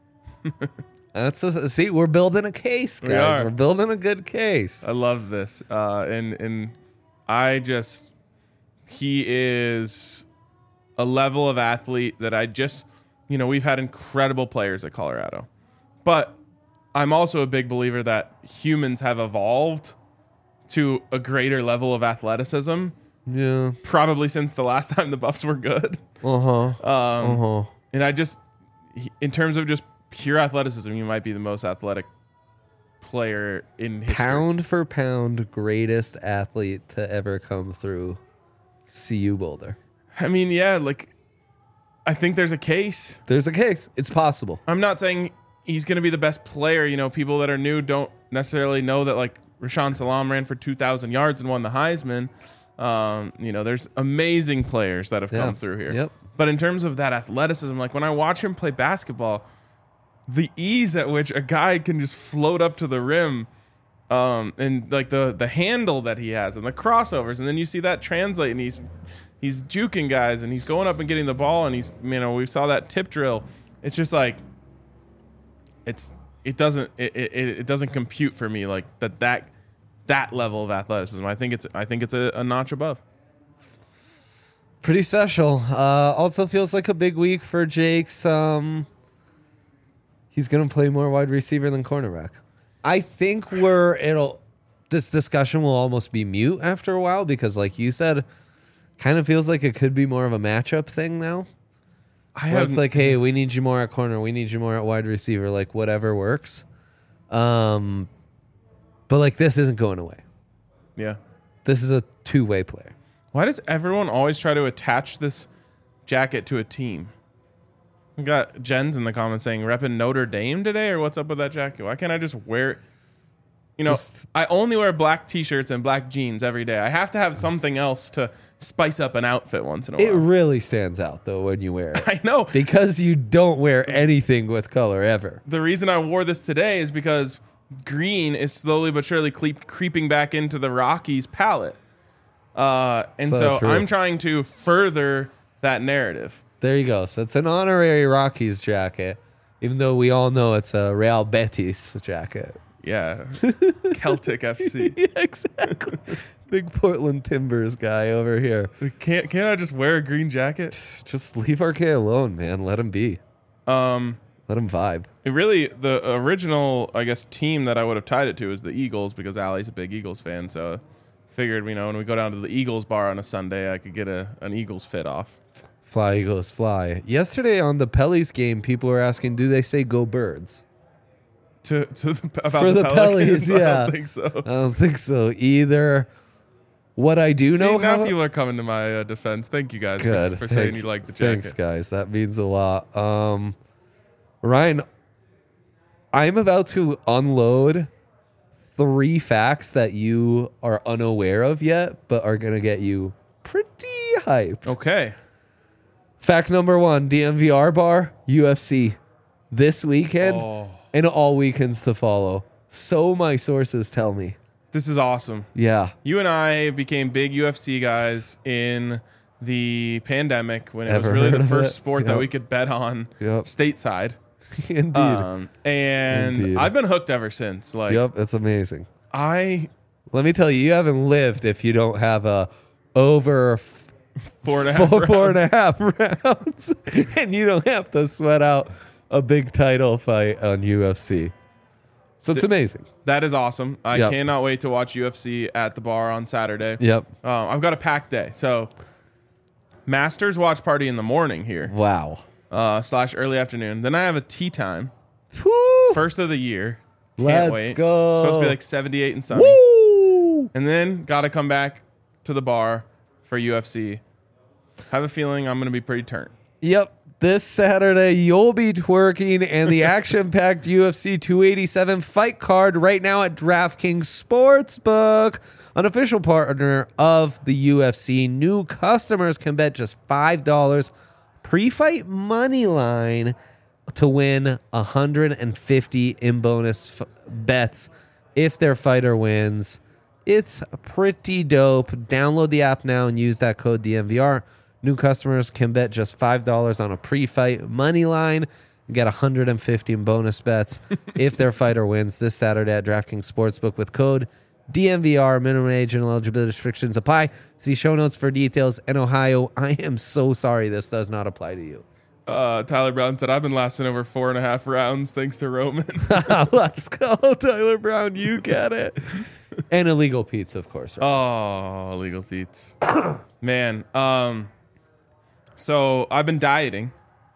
That's a, see, we're building a case, guys. We are. We're building a good case. I love this. Uh, and, and I just, he is a level of athlete that I just, you know, we've had incredible players at Colorado. But I'm also a big believer that humans have evolved to a greater level of athleticism, Yeah. probably since the last time the Buffs were good. Uh-huh. Um, Uh-huh. And I just, he- in terms of just pure athleticism, you might be the most athletic player in history. Pound for pound, greatest athlete to ever come through C U Boulder. I mean, yeah, like, I think there's a case. There's a case. It's possible. I'm not saying he's going to be the best player. You know, people that are new don't necessarily know that, like, Rashawn Salam ran for two thousand yards and won the Heisman. Um, you know, there's amazing players that have Yeah. come through here. Yep. But in terms of that athleticism, like, when I watch him play basketball, the ease at which a guy can just float up to the rim, um, and like the the handle that he has and the crossovers, and then you see that translate, and he's he's juking guys, and he's going up and getting the ball, and he's, you know, we saw that tip drill. It's just like, it's it doesn't it, it, it doesn't compute for me like that that that level of athleticism. I think it's I think it's a, a notch above. Pretty special. Uh, also feels like a big week for Jake's. Um, he's going to play more wide receiver than cornerback. I think we're it'll this discussion will almost be mute after a while because, like you said, kind of feels like it could be more of a matchup thing now. I Where have it's like, hey, we need you more at corner, we need you more at wide receiver, like whatever works. Um, but like this isn't going away. yeah. This is a two-way player. Why does everyone always try to attach this jacket to a team? We got Jen's in the comments saying repping Notre Dame today, or what's up with that jacket? Why can't I just wear it? You know, Just- I only wear black t-shirts and black jeans every day. I have to have something else to spice up an outfit once in a It while. really stands out though when you wear it. I know. Because you don't wear anything with color ever. The reason I wore this today is because green is slowly but surely creep, creeping back into the Rockies palette. Uh, and So so true. I'm trying to further that narrative. There you go. So it's an honorary Rockies jacket, even though we all know it's a Real Betis jacket. Yeah. Celtic F C. Yeah, exactly. Big Portland Timbers guy over here. Can't can't I just wear a green jacket? Just leave R K alone, man. Let him be. Um, Let him vibe. it really, the original, I guess, team that I would have tied it to is the Eagles because Allie's a big Eagles fan. So figured, you know, when we go down to the Eagles bar on a Sunday, I could get a an Eagles fit off. Fly, Eagles, fly. Yesterday on the Pellies game, people were asking, do they say go birds? To, to the, about For the, the Pelicans, Pellies, I yeah. don't think so. I don't think so either. What I do See, know, now how- people are coming to my uh, defense. Thank you guys Good. for, for Thank- saying you like the jacket. Thanks, guys. That means a lot. Um, Ryan, I'm about to unload three facts that you are unaware of yet, but are going to get you pretty hyped. Okay. Fact number one, D M V R bar, U F C this weekend Oh, and all weekends to follow. So my sources tell me. this is awesome. Yeah. You and I became big U F C guys in the pandemic when it Ever was really heard the of first it? sport that Yep. we could bet on Yep. stateside. Indeed. Um, and Indeed. I've been hooked ever since. Like Yep, it's amazing. I Let me tell you, you haven't lived if you don't have a over f- four and a half four, four and rounds. a half rounds, and you don't have to sweat out a big title fight on U F C. So it's Th- amazing. That is awesome. I Yep. cannot wait to watch U F C at the bar on Saturday. Yep. Um, I've got a packed day. So Masters watch party in the morning here, Wow. uh, slash early afternoon. Then I have a tea time, Woo! first of the year. Can't Let's wait. go. Supposed to be like seventy-eight and sunny. Woo! And then got to come back to the bar for U F C. Have a feeling I'm going to be pretty turnt. Yep. This Saturday, you'll be twerking and the action-packed U F C two eighty-seven fight card right now at DraftKings Sportsbook, an official partner of the U F C. New customers can bet just five dollars pre-fight money line to win one hundred fifty in bonus f- bets if their fighter wins. It's pretty dope. Download the app now and use that code D M V R. New customers can bet just five dollars on a pre-fight money line and get one hundred fifty in bonus bets if their fighter wins this Saturday at DraftKings Sportsbook with code D M V R. Minimum age and eligibility restrictions apply. See show notes for details. In Ohio, I am so sorry this does not apply to you. Uh, Tyler Brown said, I've been lasting over four and a half rounds thanks to Roman. Let's go, Tyler Brown. You get it. And illegal pizza, of course. Right? Oh, illegal feats. Man, um, so I've been dieting.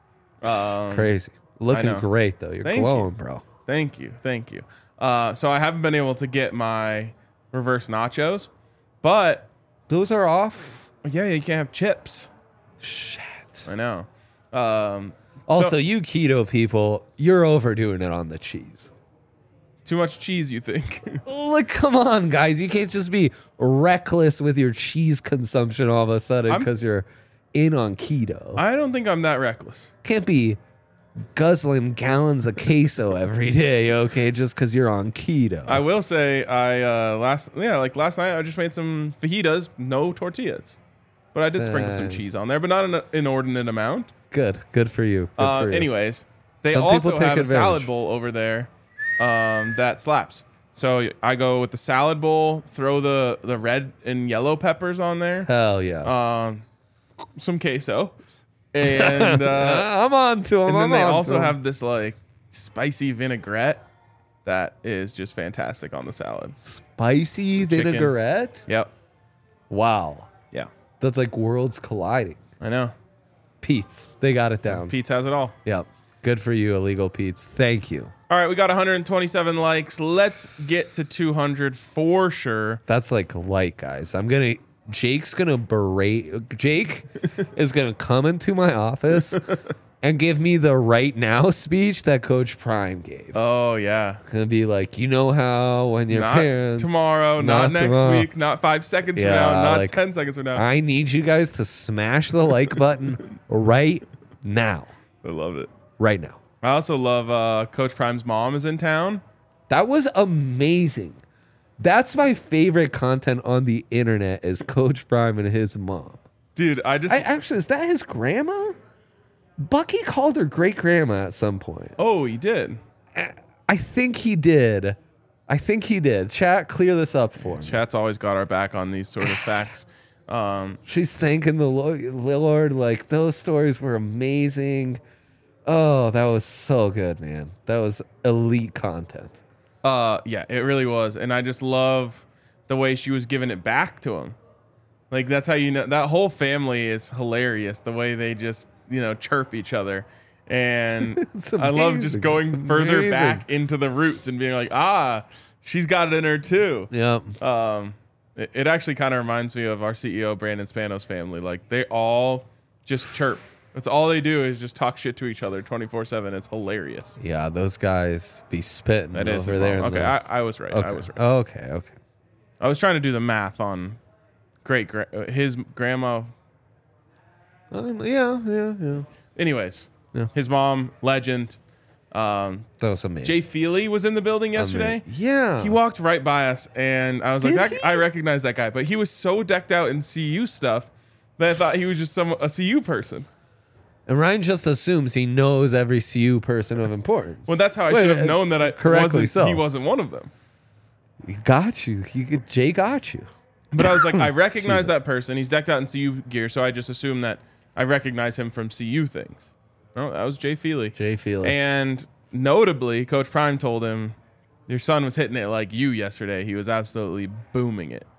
Um, Crazy. Looking know. great, though. You're Thank glowing, you. bro. Thank you. Thank you. Uh, so I haven't been able to get my reverse nachos, but Those are off. yeah, you can't have chips. Shit. I know. Um, Also, so- you keto people, you're overdoing it on the cheese. too much cheese, you think? Like, come on, guys. You can't just be reckless with your cheese consumption all of a sudden I'm- because you're in on keto. I don't think I'm that reckless. Can't be guzzling gallons of queso every day, okay, just because you're on keto. I will say, I uh, last yeah, like last night, I just made some fajitas, no tortillas, but I did sprinkle some Dang. cheese on there, but not an inordinate amount. Good. Good for you. Good Uh, for you. anyways, they Some also people take have a salad advantage. bowl over there um, that slaps. So I go with the salad bowl, throw the, the red and yellow peppers on there, Hell yeah. um, some queso, and uh, I'm on to them. and then I'm they on also to 'em. have this like spicy vinaigrette that is just fantastic on the salad. spicy some chicken. vinaigrette. Yep. Wow. Yeah. That's like worlds colliding. I know. Pete's. They got it down. Pete's has it all. Yep. Good for you, Illegal Pete's. Thank you. All right, we got one hundred twenty-seven likes. Let's get to two hundred for sure. That's like light, guys. I'm going to, Jake's going to berate, Jake is going to come into my office and give me the right now speech that Coach Prime gave. Oh yeah. Going to be like, you know how when your Not parents. tomorrow, not, Not next tomorrow. week, not five seconds Yeah, from now, not like, ten seconds from now. I need you guys to smash the like button right now. I love it. Right now. I also love uh, Coach Prime's mom is in town. That was amazing. That's my favorite content on the internet is Coach Prime and his mom. Dude, I just I actually, is that his grandma? Bucky called her great grandma at some point. Oh, he did. I think he did. I think he did. Chat, clear this up for me. Chat's always got our back on these sort of facts. Um, She's thanking the Lo- Lord. Like, those stories were amazing. Oh, that was so good, man. That was elite content. uh, yeah, it really was, and I just love the way she was giving it back to him. Like that's how you know that whole family is hilarious. The way they just you know chirp each other, and It's I love amazing. just going It's further amazing. back into the roots and being like, ah, she's got it in her too. Yep. Um, it, it actually kind of reminds me of our C E O Brandon Spanos family. Like they all just chirp. That's all they do is just talk shit to each other twenty-four seven. It's hilarious. Yeah, those guys be spitting That over is his there. mom. in Okay, the- I, I was right. okay. I was right. Okay, okay. I was trying to do the math on great gra- uh, his grandma. Um, yeah, yeah, yeah. Anyways, Yeah. his mom, legend. Um, That was amazing. Jay Feely was in the building yesterday. Ama- Yeah. He walked right by us, and I was like, Did that, he? I recognize that guy. But he was so decked out in C U stuff that I thought he was just some a C U person. And Ryan just assumes he knows every C U person of importance. Well, that's how I Wait, should have uh, known that I correctly wasn't. so. He wasn't one of them. He got you. He could, Jay got you. But I was like, I recognize Jesus. that person. He's decked out in C U gear, so I just assumed that I recognize him from C U things. No, that was Jay Feely. Jay Feely. And notably, Coach Prime told him, your son was hitting it like you yesterday. He was absolutely booming it.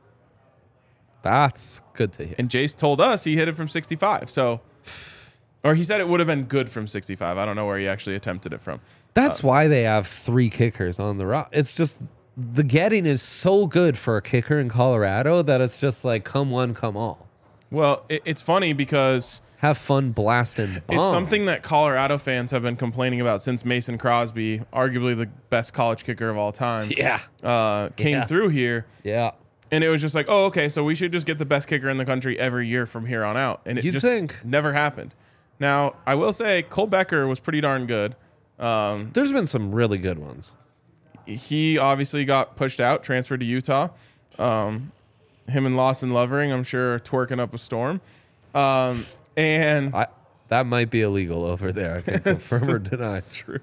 That's good to hear. And Jace told us he hit it from sixty-five. So, or he said it would have been good from sixty-five. I don't know where he actually attempted it from. That's why they have three kickers on the rock. It's just the getting is so good for a kicker in Colorado that it's just like come one, come all. Well, it, it's funny because have fun blasting bombs. It's something that Colorado fans have been complaining about since Mason Crosby, arguably the best college kicker of all time, Yeah. uh, came Yeah. through here. Yeah. And it was just like, oh, okay, so we should just get the best kicker in the country every year from here on out. And it You'd just think. never happened. Now, I will say Cole Becker was pretty darn good. Um, There's been some really good ones. he obviously got pushed out, transferred to Utah. Um, him and Lawson Lovering, I'm sure, are twerking up a storm. Um, and I that might be illegal over there. I can confirm or deny. It's true.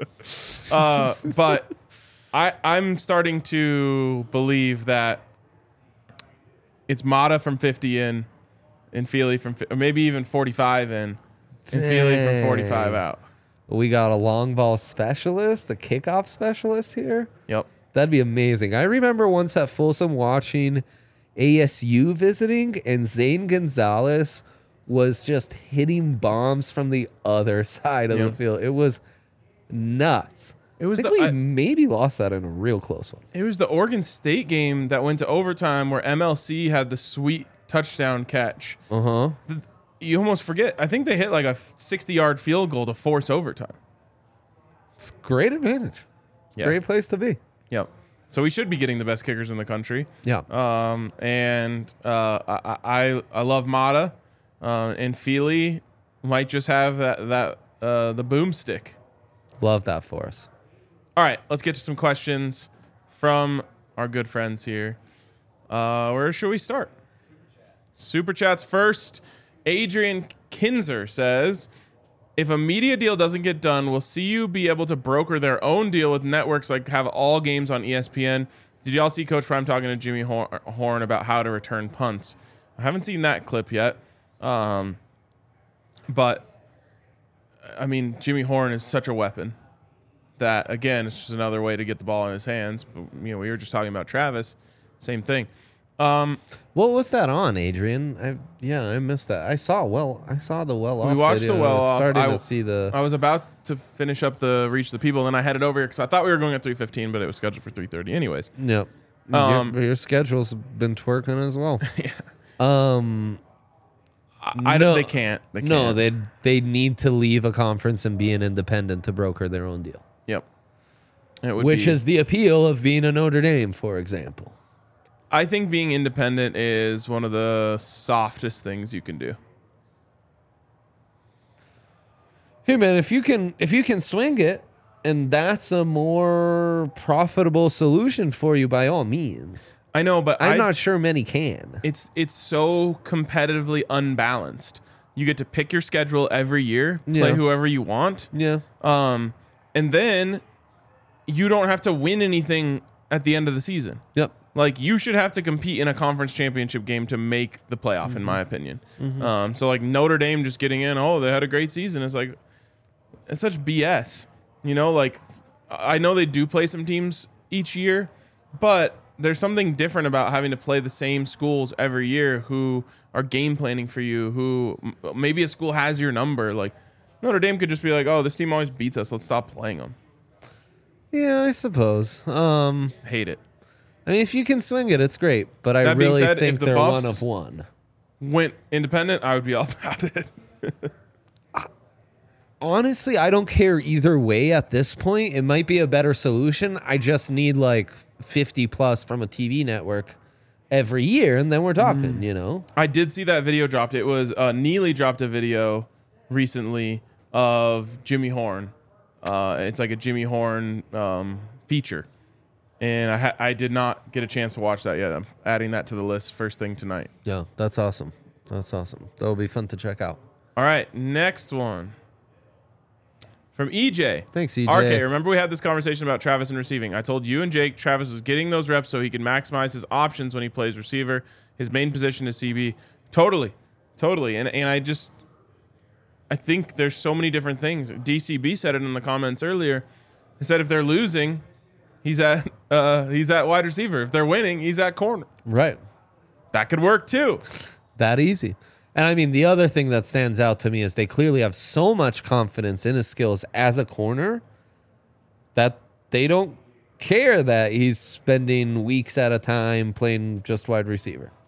uh, but I, I'm starting to believe that it's Mata from fifty in, and Feely from, fi- or maybe even forty-five in, and Feely from forty-five Dang. out. We got a long ball specialist, a kickoff specialist here. Yep. That'd be amazing. I remember once at Folsom watching A S U visiting, and Zane Gonzalez was just hitting bombs from the other side of Yep. the field. It was nuts. It was I think the- we I- maybe lost that in a real close one. It was the Oregon State game that went to overtime where M L C had the sweet touchdown catch. Uh huh. The- You almost forget. I think they hit like a sixty-yard field goal to force overtime. It's great advantage. Yeah. Great place to be. Yep. So we should be getting the best kickers in the country. Yeah. Um, and uh, I, I I love Mata, uh, and Feely might just have that that uh, the boomstick. Love that for us. All right, let's get to some questions from our good friends here. Uh, where should we start? Super chats first. Adrian Kinzer says, if a media deal doesn't get done, will C U be able to broker their own deal with networks like have all games on E S P N? Did y'all see Coach Prime talking to Jimmy Hor- Horn about how to return punts? I haven't seen that clip yet. Um, but, I mean, Jimmy Horn is such a weapon that, again, it's just another way to get the ball in his hands. But, you know, we were just talking about Travis. Same thing. Um, What was that on, Adrian? I yeah, I missed that. I saw well, I saw the well off. we watched video. the well I was off. starting I, to see the. I was about to finish up the Reach the People, then I headed over here because I thought we were going at three fifteen, but it was scheduled for three thirty anyways. Yep. Um, your, your schedule's been twerking as well. Um. I, I No. don't. They can't. They can't. No, they they need to leave a conference and be an independent to broker their own deal, Yep. It would which be- is the appeal of being a Notre Dame, for example. I think being independent is one of the softest things you can do. Hey man, if you can if you can swing it, and that's a more profitable solution for you, by all means. I know, but I'm I, not sure many can. It's it's so competitively unbalanced. You get to pick your schedule every year, play Yeah. whoever you want, Yeah. um, and then you don't have to win anything at the end of the season. Yep. Like, you should have to compete in a conference championship game to make the playoff, Mm-hmm. in my opinion. Um, so, like, Notre Dame just getting in, oh, they had a great season. It's like, it's such B S. You know, like, I know they do play some teams each year, but there's something different about having to play the same schools every year who are game planning for you, who m- maybe a school has your number. Like, Notre Dame could just be like, oh, this team always beats us. Let's stop playing them. Yeah, I suppose. Um, Hate it. I mean, if you can swing it, it's great. But I That being really said, think if the they're Buffs- one of one. Went independent, I would be all about it. Honestly, I don't care either way at this point. It might be a better solution. I just need like fifty plus from a T V network every year, and then we're talking, you know? I did see that video dropped. It was uh, Neely dropped a video recently of Jimmy Horn. Uh, it's like a Jimmy Horn um, feature, and I ha- I did not get a chance to watch that yet. I'm adding that to the list first thing tonight. Yeah, that's awesome. That's awesome. That'll be fun to check out. All right, next one from E J. Thanks, E J. R K, remember we had this conversation about Travis and receiving. I told you and Jake Travis was getting those reps so he can maximize his options when he plays receiver. His main position is C B. Totally. Totally. And and I just I think there's so many different things. D C B said it in the comments earlier. He said if they're losing, he's at uh, he's at wide receiver. If they're winning, he's at corner. Right. That could work too. That easy. And I mean, the other thing that stands out to me is they clearly have so much confidence in his skills as a corner that they don't care that he's spending weeks at a time playing just wide receiver.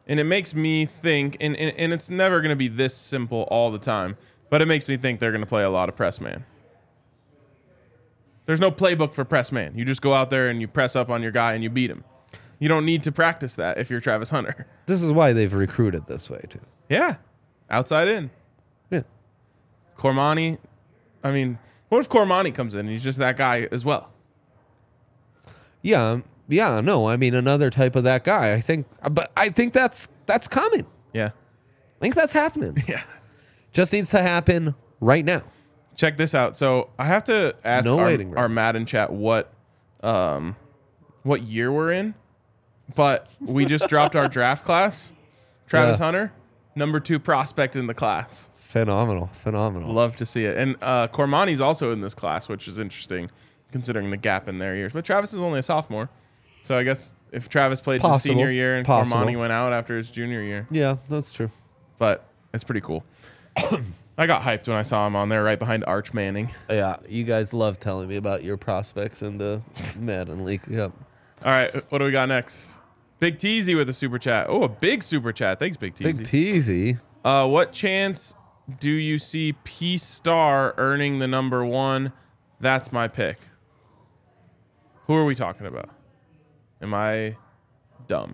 And it makes me think, and, and, and it's never going to be this simple all the time, but it makes me think they're going to play a lot of press man. There's no playbook for press man. You just go out there and you press up on your guy and you beat him. You don't need to practice that if you're Travis Hunter. This is why they've recruited this way, too. Yeah. Outside in. Yeah. Cormani, I mean, what if Cormani comes in and he's just that guy as well? Yeah, yeah, no, I mean another type of that guy. I think, but I think that's that's coming. Yeah. I think that's happening. Yeah. Just needs to happen right now. Check this out. So I have to ask No our, waiting room. our Madden chat what um what year we're in, but we just dropped our draft class. Travis Yeah. Hunter, number two prospect in the class. Phenomenal, phenomenal. Love to see it. And uh, Cormani's also in this class, which is interesting considering the gap in their years. But Travis is only a sophomore. So I guess if Travis played his Possible. senior year and Possible. Cormani went out after his junior year. Yeah, that's true. But it's pretty cool. I got hyped when I saw him on there right behind Arch Manning. Yeah, you guys love telling me about your prospects in the Madden League. Yep. All right, what do we got next? Big Teasy with a super chat. Oh, a big super chat. Thanks, Big Big Teasy. Teasy. Uh, what chance do you see P Star earning the number one? That's my pick. Who are we talking about? Am I dumb?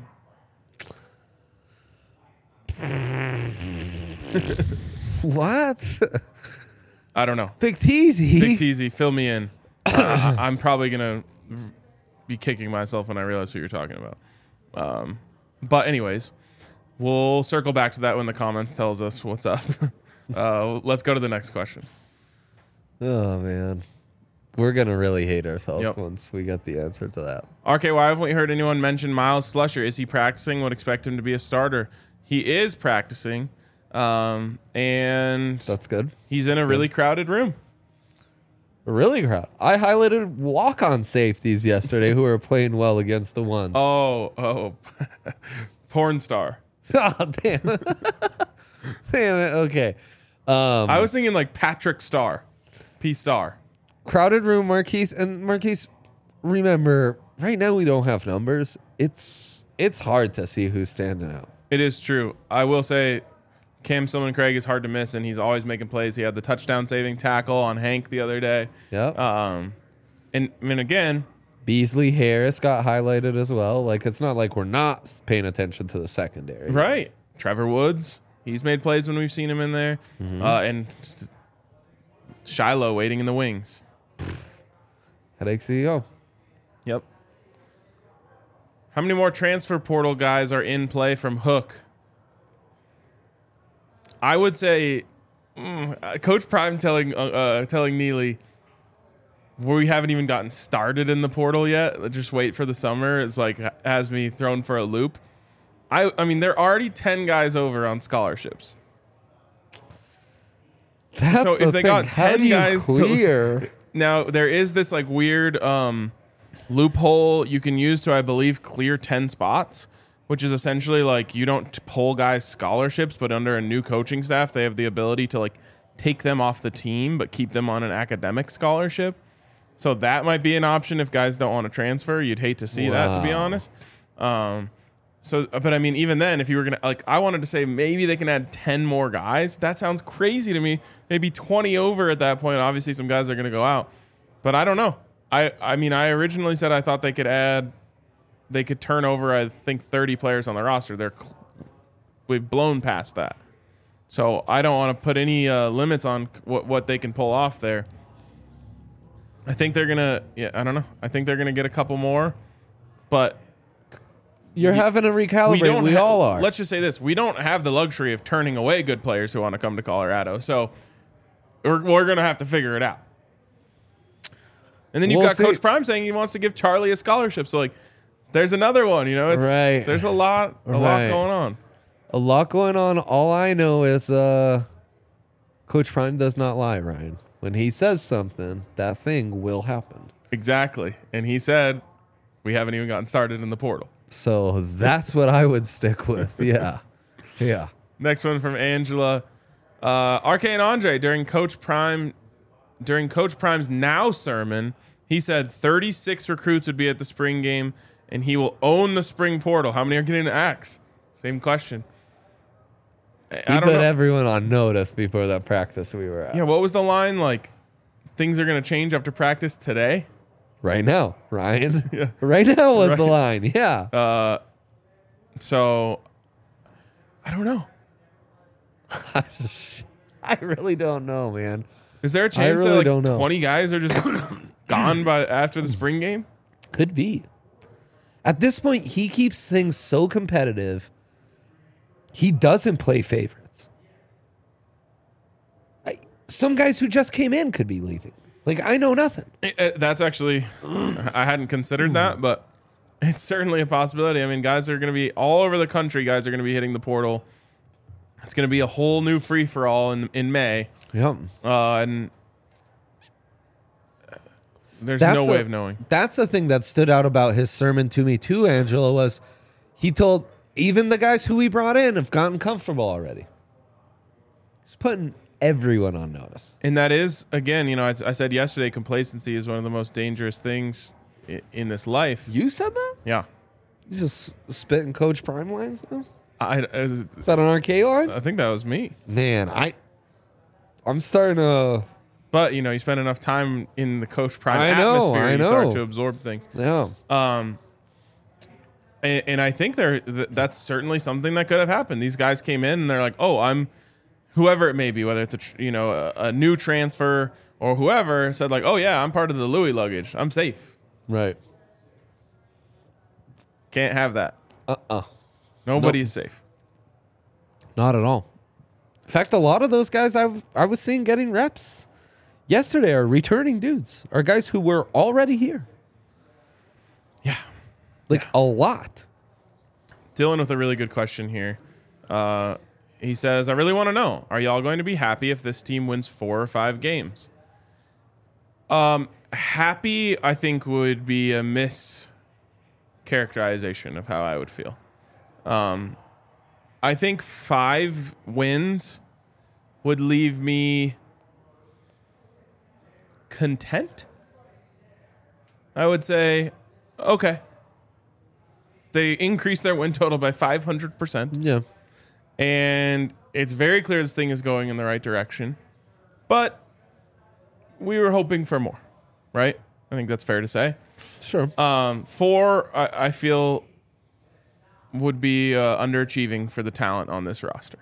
What? I don't know. Big Teasy. Big Teasy, fill me in. I, I'm probably gonna be kicking myself when I realize who you're talking about. Um, but anyways, we'll circle back to that when the comments tells us what's up. uh, let's go to the next question. Oh man, we're gonna really hate ourselves Yep. once we get the answer to that. R K, why haven't we heard anyone mention Miles Slusher? Is he practicing? Would expect him to be a starter. He is practicing, um, and That's good. he's in That's a really good. crowded room. Really crowd. I highlighted walk-on safeties yesterday who are playing well against the ones. Oh, oh, porn star. Oh, damn. Damn it. Okay. Um, I was thinking like Patrick Star, P Star. crowded room, Marquise, and Marquise. Remember, right now we don't have numbers. It's it's hard to see who's standing out. It is true. I will say Cam Silman Craig is hard to miss, and he's always making plays. He had the touchdown saving tackle on Hank the other day. Yep. Um, and I mean, again, Beasley Harris got highlighted as well. Like it's not like we're not paying attention to the secondary. right. Trevor Woods, he's made plays when we've seen him in there. Uh, and just Shiloh waiting in the wings. Headache C E O. Yep. How many more transfer portal guys are in play from Hook? I would say, mm, uh, Coach Prime telling uh, uh, telling Neely, we haven't even gotten started in the portal yet. Let's just wait for the summer. It's like has me thrown for a loop. I I mean, there are already ten guys over on scholarships. That's So the if they thing. got How ten do you guys to- clear? Now there is this like weird um, loophole you can use to, I believe, clear ten spots, which is essentially like you don't pull guys scholarships, but under a new coaching staff, they have the ability to like take them off the team, but keep them on an academic scholarship. So that might be an option if guys don't want to transfer. You'd hate to see that, to be Wow. honest. Um, so, but I mean, even then, if you were gonna like, I wanted to say maybe they can add ten more guys. That sounds crazy to me. Maybe twenty over at that point. Obviously, some guys are gonna go out, but I don't know. I, I mean, I originally said I thought they could add, they could turn over, I think, thirty players on the roster. They're, cl- we've blown past that. So I don't want to put any uh, limits on what what they can pull off there. I think they're gonna, yeah, I don't know. I think they're gonna get a couple more, but You're having to recalibrate. We, ha- all are. Let's just say this: we don't have the luxury of turning away good players who want to come to Colorado. So we're we're gonna have to figure it out. And then you've We'll got see. Coach Prime saying he wants to give Charlie a scholarship. So like, there's another one. You know, it's, Right. there's a lot, a Right. lot going on. A lot going on. All I know is uh, Coach Prime does not lie, Ryan. When he says something, that thing will happen. Exactly. And he said we haven't even gotten started in the portal. So that's what I would stick with. Yeah. Yeah. Next one from Angela. Uh, R K and Andre, during Coach Prime, during Coach Prime's Now sermon, he said thirty-six recruits would be at the spring game, and he will own the spring portal. How many are getting the axe? Same question. I, He I don't put know. everyone on notice before that practice we were at. Yeah, what was the line? Like, things are going to change after practice today? Right now, Ryan. Yeah. Right now was the Right. line. Yeah. Uh, so, I don't know. I really don't know, man. Is there a chance really that like don't know. twenty guys are just gone by after the spring game? Could be. At this point, he keeps things so competitive. He doesn't play favorites. I, some guys who just came in could be leaving. Like, I know nothing. It- it- that's actually, I hadn't considered that, but it's certainly a possibility. I mean, guys are going to be all over the country. Guys are going to be hitting the portal. It's going to be a whole new free for all in in May, Yep. uh, and there's That's no a- way of knowing. That's the thing that stood out about his sermon to me too, Angela, was he told even the guys who he brought in have gotten comfortable already. He's putting everyone on notice. And that is, again, you know, I, I said yesterday, complacency is one of the most dangerous things in, in this life. You said that? Yeah. You just spitting Coach Prime lines now? I, I, Is that an R K line? I think that was me. Man, I I'm starting to But, you know, you spend enough time in the Coach Prime I know, atmosphere, I you start know. to absorb things. yeah. Um, and, and I think there th- that's certainly something that could have happened. These guys came in and they're like, "Oh, I'm whoever it may be, whether it's a tr- you know a, a new transfer or whoever said like, "Oh yeah, I'm part of the Louis luggage. I'm safe. Right. Can't have that. Uh-uh. Nobody Nope. is safe." Not at all. In fact, a lot of those guys I I was seeing getting reps yesterday are returning dudes, are guys who were already here. Yeah. Like a lot. Dylan with a really good question here. Uh, he says, "I really want to know: are y'all going to be happy if this team wins four or five games?" Um, happy, I think, would be a mischaracterization of how I would feel. Um, I think five wins would leave me content. I would say, okay. They increased their win total by five hundred percent. Yeah. And it's very clear this thing is going in the right direction. But we were hoping for more, right? I think that's fair to say. Sure. Um, four, I, I feel, would be uh, underachieving for the talent on this roster.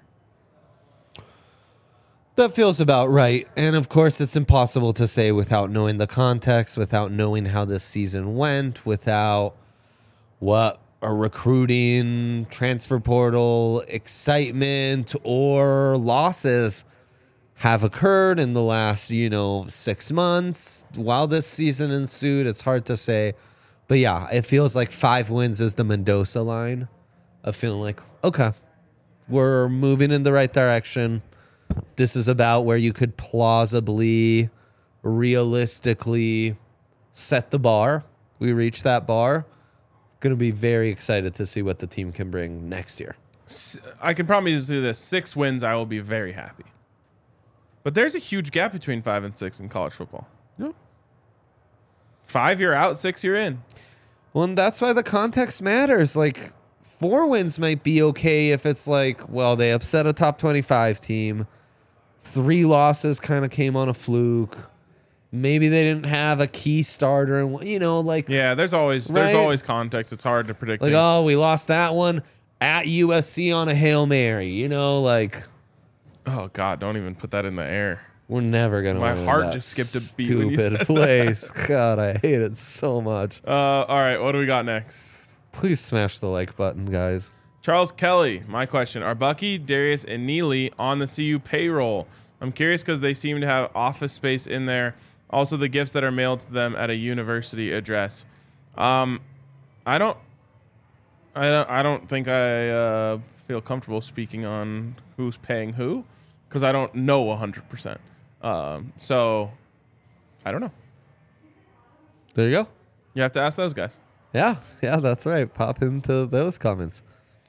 That feels about right. And of course, it's impossible to say without knowing the context, without knowing how this season went, without what a recruiting, transfer portal, excitement, or losses have occurred in the last, you know, six months while this season ensued. It's hard to say. But yeah, it feels like five wins is the Mendoza line of feeling like, okay, we're moving in the right direction. This is about where you could plausibly, realistically set the bar. We reached that bar. Going to be very excited to see what the team can bring next year. I can promise you this: six wins, I will be very happy. But there's a huge gap between five and six in college football. Yeah. Five, you're out. Six, you're in. Well, and that's why the context matters. Like, four wins might be okay if it's like, well, they upset a top twenty-five team. Three losses kind of came on a fluke. Maybe they didn't have a key starter, and you know, like, Yeah, there's always there's Right. always context. It's hard to predict. like, things. oh, we lost that one at U S C on a Hail Mary. You know, like, Oh God, don't even put that in the air. we're never gonna. My win heart that just skipped a beat when you Stupid said place. God, I hate it so much. Uh, all right, what do we got next? Please smash the like button, guys. Charles Kelly, my question: are Bucky, Darius, and Neely on the C U payroll? I'm curious because they seem to have office space in there. Also, the gifts that are mailed to them at a university address. Um, I don't, I don't, I don't think I uh, feel comfortable speaking on who's paying who because I don't know one hundred percent. Um, so I don't know. There you go. You have to ask those guys. Yeah, yeah, that's right. Pop into those comments.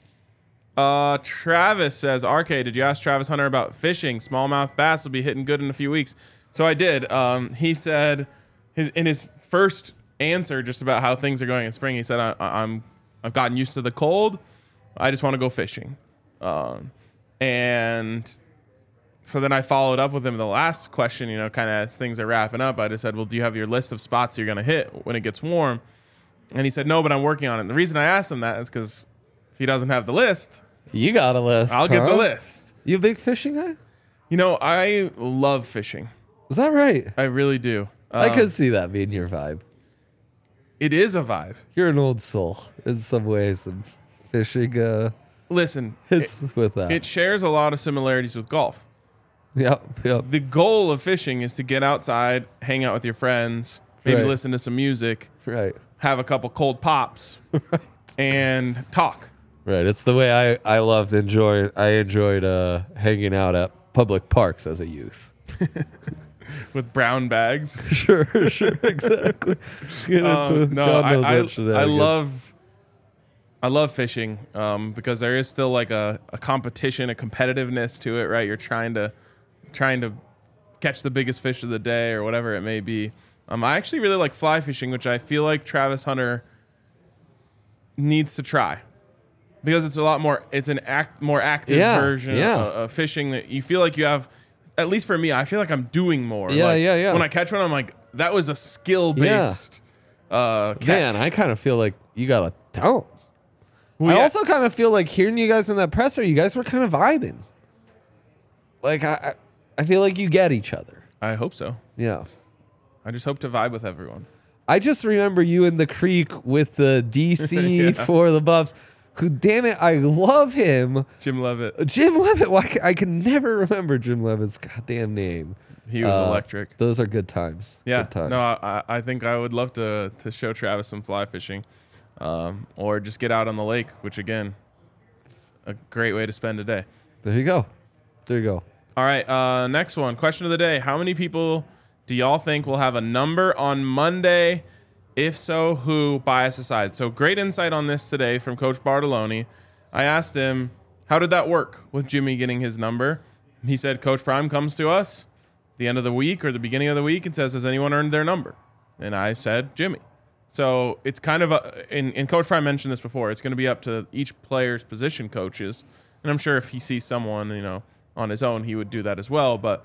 Uh, Travis says, R K, did you ask Travis Hunter about fishing? Smallmouth bass will be hitting good in a few weeks. So I did. Um, he said his in his first answer just about how things are going in spring, he said, I, I'm I've gotten used to the cold. I just want to go fishing. Um, and so then I followed up with him the last question, you know, kind of as things are wrapping up. I just said, well, do you have your list of spots you're going to hit when it gets warm? And he said, no, but I'm working on it. And the reason I asked him that is because if he doesn't have the list, You got a list. I'll huh? get the list. You a big fishing guy? You know, I love fishing. Is that right? I really do. I Um, could see that being your vibe. It is a vibe. You're an old soul in some ways, and fishing uh, Listen, hits it, with that. it shares a lot of similarities with golf. Yep, yep. The goal of fishing is to get outside, hang out with your friends, maybe Right. listen to some music, Right, have a couple cold pops, and talk. right. It's the way I I loved enjoy. I enjoyed uh, hanging out at public parks as a youth. With brown bags. Sure, sure, exactly. Get Um, into no, God I, knows I, what I shenanigans. love I love fishing um, because there is still like a, a competition, a competitiveness to it, right? You're trying to trying to catch the biggest fish of the day or whatever it may be. Um, I actually really like fly fishing, which I feel like Travis Hunter needs to try because it's a lot more. It's an act more active Yeah, version yeah. Of, of fishing that you feel like you have. At least for me, I feel like I'm doing more. Yeah, Like, yeah, yeah. When I catch one, I'm like, that was a skill based uh, catch. Man, I kind of feel like you got a talent. Well, I yeah. also kind of feel like hearing you guys in that presser, you guys were kind of vibing. Like I, I I feel like you get each other. I hope so. Yeah. I just hope to vibe with everyone. I just remember you in the creek with the D C for the Buffs, who, damn it, I love him. Jim Levitt, Jim Levitt. Why ca- I can never remember Jim Levitt's goddamn name. he was Uh, electric. Those are good times. Yeah, Good times. no, I, I think I would love to to show Travis some fly fishing, um, or just get out on the lake, which again, a great way to spend a day. There you go. There you go. All right, uh, next one. Question of the day: how many people do y'all think will have a number on Monday? If so, who? Bias aside. So great insight on this today from Coach Bartoloni. I asked him, how did that work with Jimmy getting his number? He said, Coach Prime comes to us the end of the week or the beginning of the week and says, has anyone earned their number? And I said, Jimmy. So it's kind of a, and, and Coach Prime mentioned this before, it's going to be up to each player's position coaches. And I'm sure if he sees someone, you know, on his own, he would do that as well. But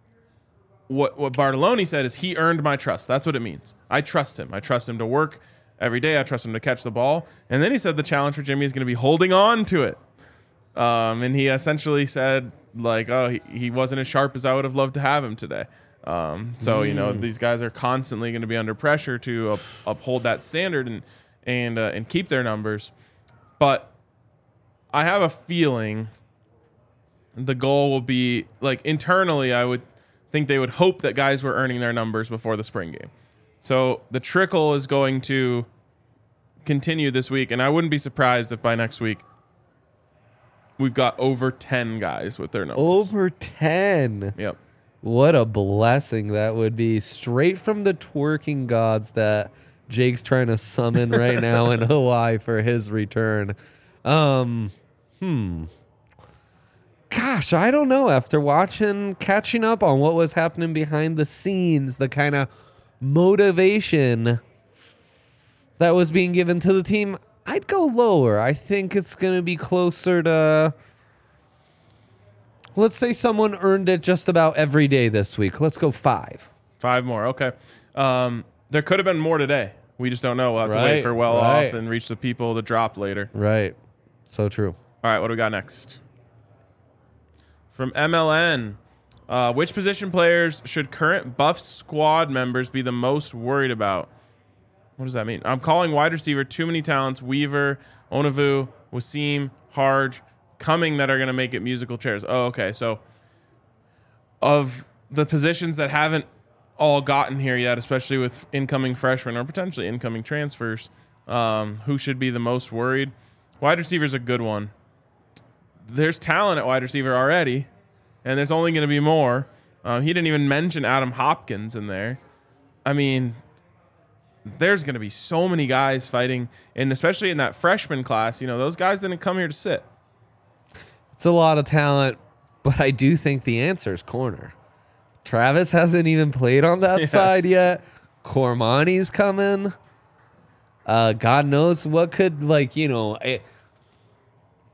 what what Bartoloni said is he earned my trust. That's what it means. I trust him. I trust him to work every day. I trust him to catch the ball. And then he said the challenge for Jimmy is going to be holding on to it. Um, and he essentially said, like, oh, he, he wasn't as sharp as I would have loved to have him today. Um, so, you know, these guys are constantly going to be under pressure to up, uphold that standard and and uh, and keep their numbers. But I have a feeling the goal will be, like, internally, I would think they would hope that guys were earning their numbers before the spring game. So the trickle is going to continue this week, and I wouldn't be surprised if by next week we've got over ten guys with their numbers. Over ten. Yep. What a blessing that would be. Straight from the twerking gods that Jake's trying to summon right now in Hawaii for his return. Um, hmm. Gosh, I don't know. After watching, catching up on what was happening behind the scenes, the kind of motivation that was being given to the team, I'd go lower. I think it's going to be closer to, let's say someone earned it just about every day this week. Let's go five. Five more. Okay. Um, there could have been more today. We just don't know. We'll have to Right, wait for well right. off and reach the people to drop later. Right. So true. All right, what do we got next? From M L N, uh, which position players should current Buff squad members be the most worried about? What does that mean? I'm calling wide receiver too many talents. Weaver, Onavu, Wasim, Harge, Cumming that are going to make it musical chairs. Oh, okay. So of the positions that haven't all gotten here yet, especially with incoming freshmen or potentially incoming transfers, um, who should be the most worried? Wide receiver is a good one. There's talent at wide receiver already, and there's only going to be more. Um, he didn't even mention Adam Hopkins in there. I mean, there's going to be so many guys fighting, and especially in that freshman class, you know, those guys didn't come here to sit. It's a lot of talent, but I do think the answer is corner. Travis hasn't even played on that Yes. side yet. Cormani's coming. Uh, God knows what could, like, you know, it,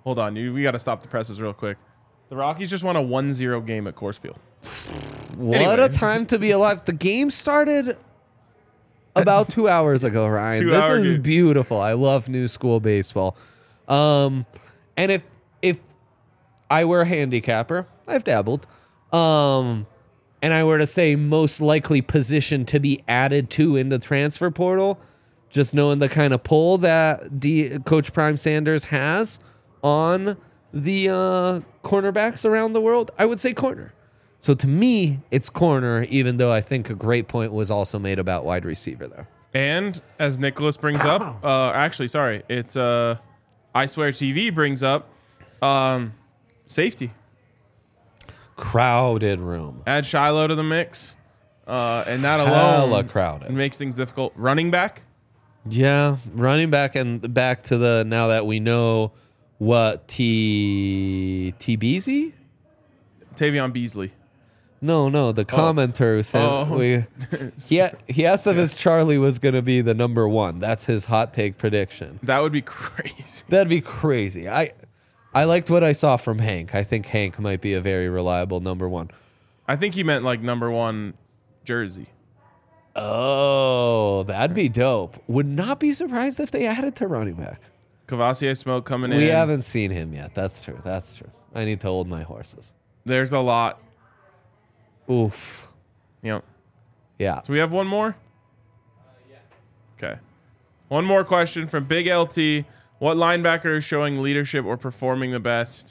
Hold on. You, we got to stop the presses real quick. The Rockies just won a one zero game at Coors Field. What Anyways. a time to be alive. The game started about two hours ago, Ryan. Two this hour is game. beautiful. I love new school baseball. Um, and if if I were a handicapper, I've dabbled, um, and I were to say most likely position to be added to in the transfer portal, just knowing the kind of pull that D, Coach Prime Sanders has on the uh, cornerbacks around the world, I would say corner. So to me, it's corner, even though I think a great point was also made about wide receiver there. And as Nicholas brings up, uh, actually, sorry, it's uh, I Swear T V brings up um, safety. Crowded room. Add Shiloh to the mix, uh, and that Hella alone crowded. makes things difficult. Running back, Yeah, running back and back to the now that we know what T T Beasley? Tavion Beasley. No, no, the commenter said Oh. we. He, he asked if his Charlie was going to be the number one. That's his hot take prediction. That would be crazy. That'd be crazy. I I liked what I saw from Hank. I think Hank might be a very reliable number one. I think he meant like number one jersey. Oh, that'd be dope. Would not be surprised if they added to running back. Cavassier Smoke coming in. We haven't seen him yet. That's true. That's true. I need to hold my horses. There's a lot. Oof. You know. Yeah. Do we have one more? Okay. One more question from Big L T. What linebacker is showing leadership or performing the best?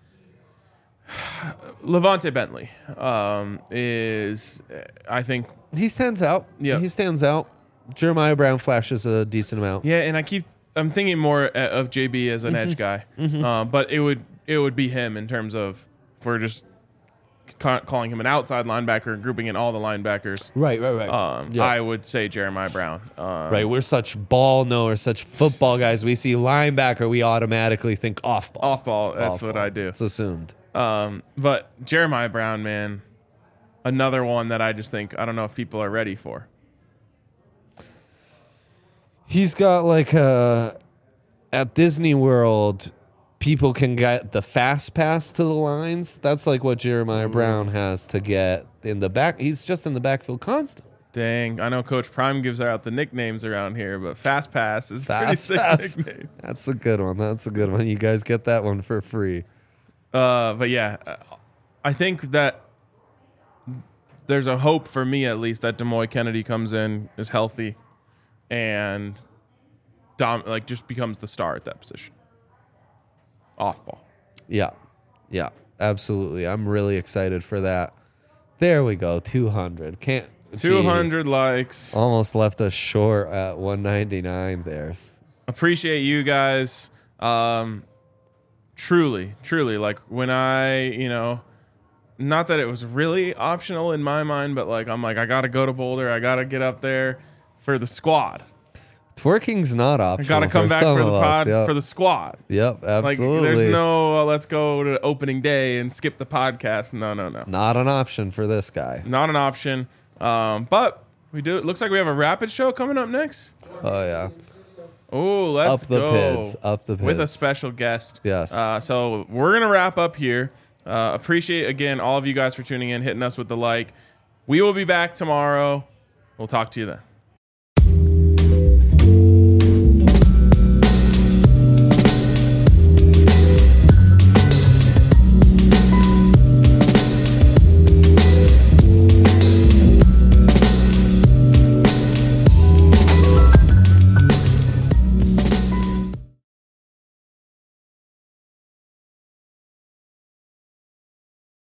Levante Bentley um, is, I think. He stands out. Yeah. He stands out. Jeremiah Brown flashes a decent amount. Yeah, and I keep I'm thinking more uh, of J B as an edge guy, uh, but it would it would be him in terms of if we're just ca- calling him an outside linebacker and grouping in all the linebackers. Right, right, right. Um, Yeah. I would say Jeremiah Brown. Um, Right, we're such ball knowers, such football guys. We see linebacker, we automatically think off ball. Off ball. That's Off what ball. I do. It's assumed. Um, but Jeremiah Brown, man, another one that I just think I don't know if people are ready for. He's got like a at Disney World, people can get the fast pass to the lines. That's like what Jeremiah Brown has to get in the back. He's just in the backfield constantly. Dang, I know Coach Prime gives out the nicknames around here, but Fast Pass is a pretty Fast sick pass. nickname. That's a good one. That's a good one. You guys get that one for free. Uh, but yeah, uh, I think that there's a hope for me at least that Demoy Kennedy comes in, is healthy, and dom- like just becomes the star at that position. Off ball. Yeah. Yeah. Absolutely. I'm really excited for that. There we go. two hundred. Can't two gee, hundred likes. almost left us short at one ninety-nine there. Appreciate you guys. Um, truly, truly, like when I, you know, not that it was really optional in my mind, but like I'm like I gotta go to Boulder, I gotta get up there for the squad. Twerking's not I optional. gotta come for back some for the of us, pod Yep. for the squad. Yep, Like absolutely. there's no uh, let's go to opening day and skip the podcast. No, no, no, Not an option for this guy. not an option. Um, but we do. It looks like we have a rapid show coming up next. Oh yeah. Oh, let's Up the go. pits, up the with a pits. special guest. Yes. Uh, so we're gonna wrap up here. Uh, appreciate again all of you guys for tuning in, hitting us with the like. We will be back tomorrow. We'll talk to you then.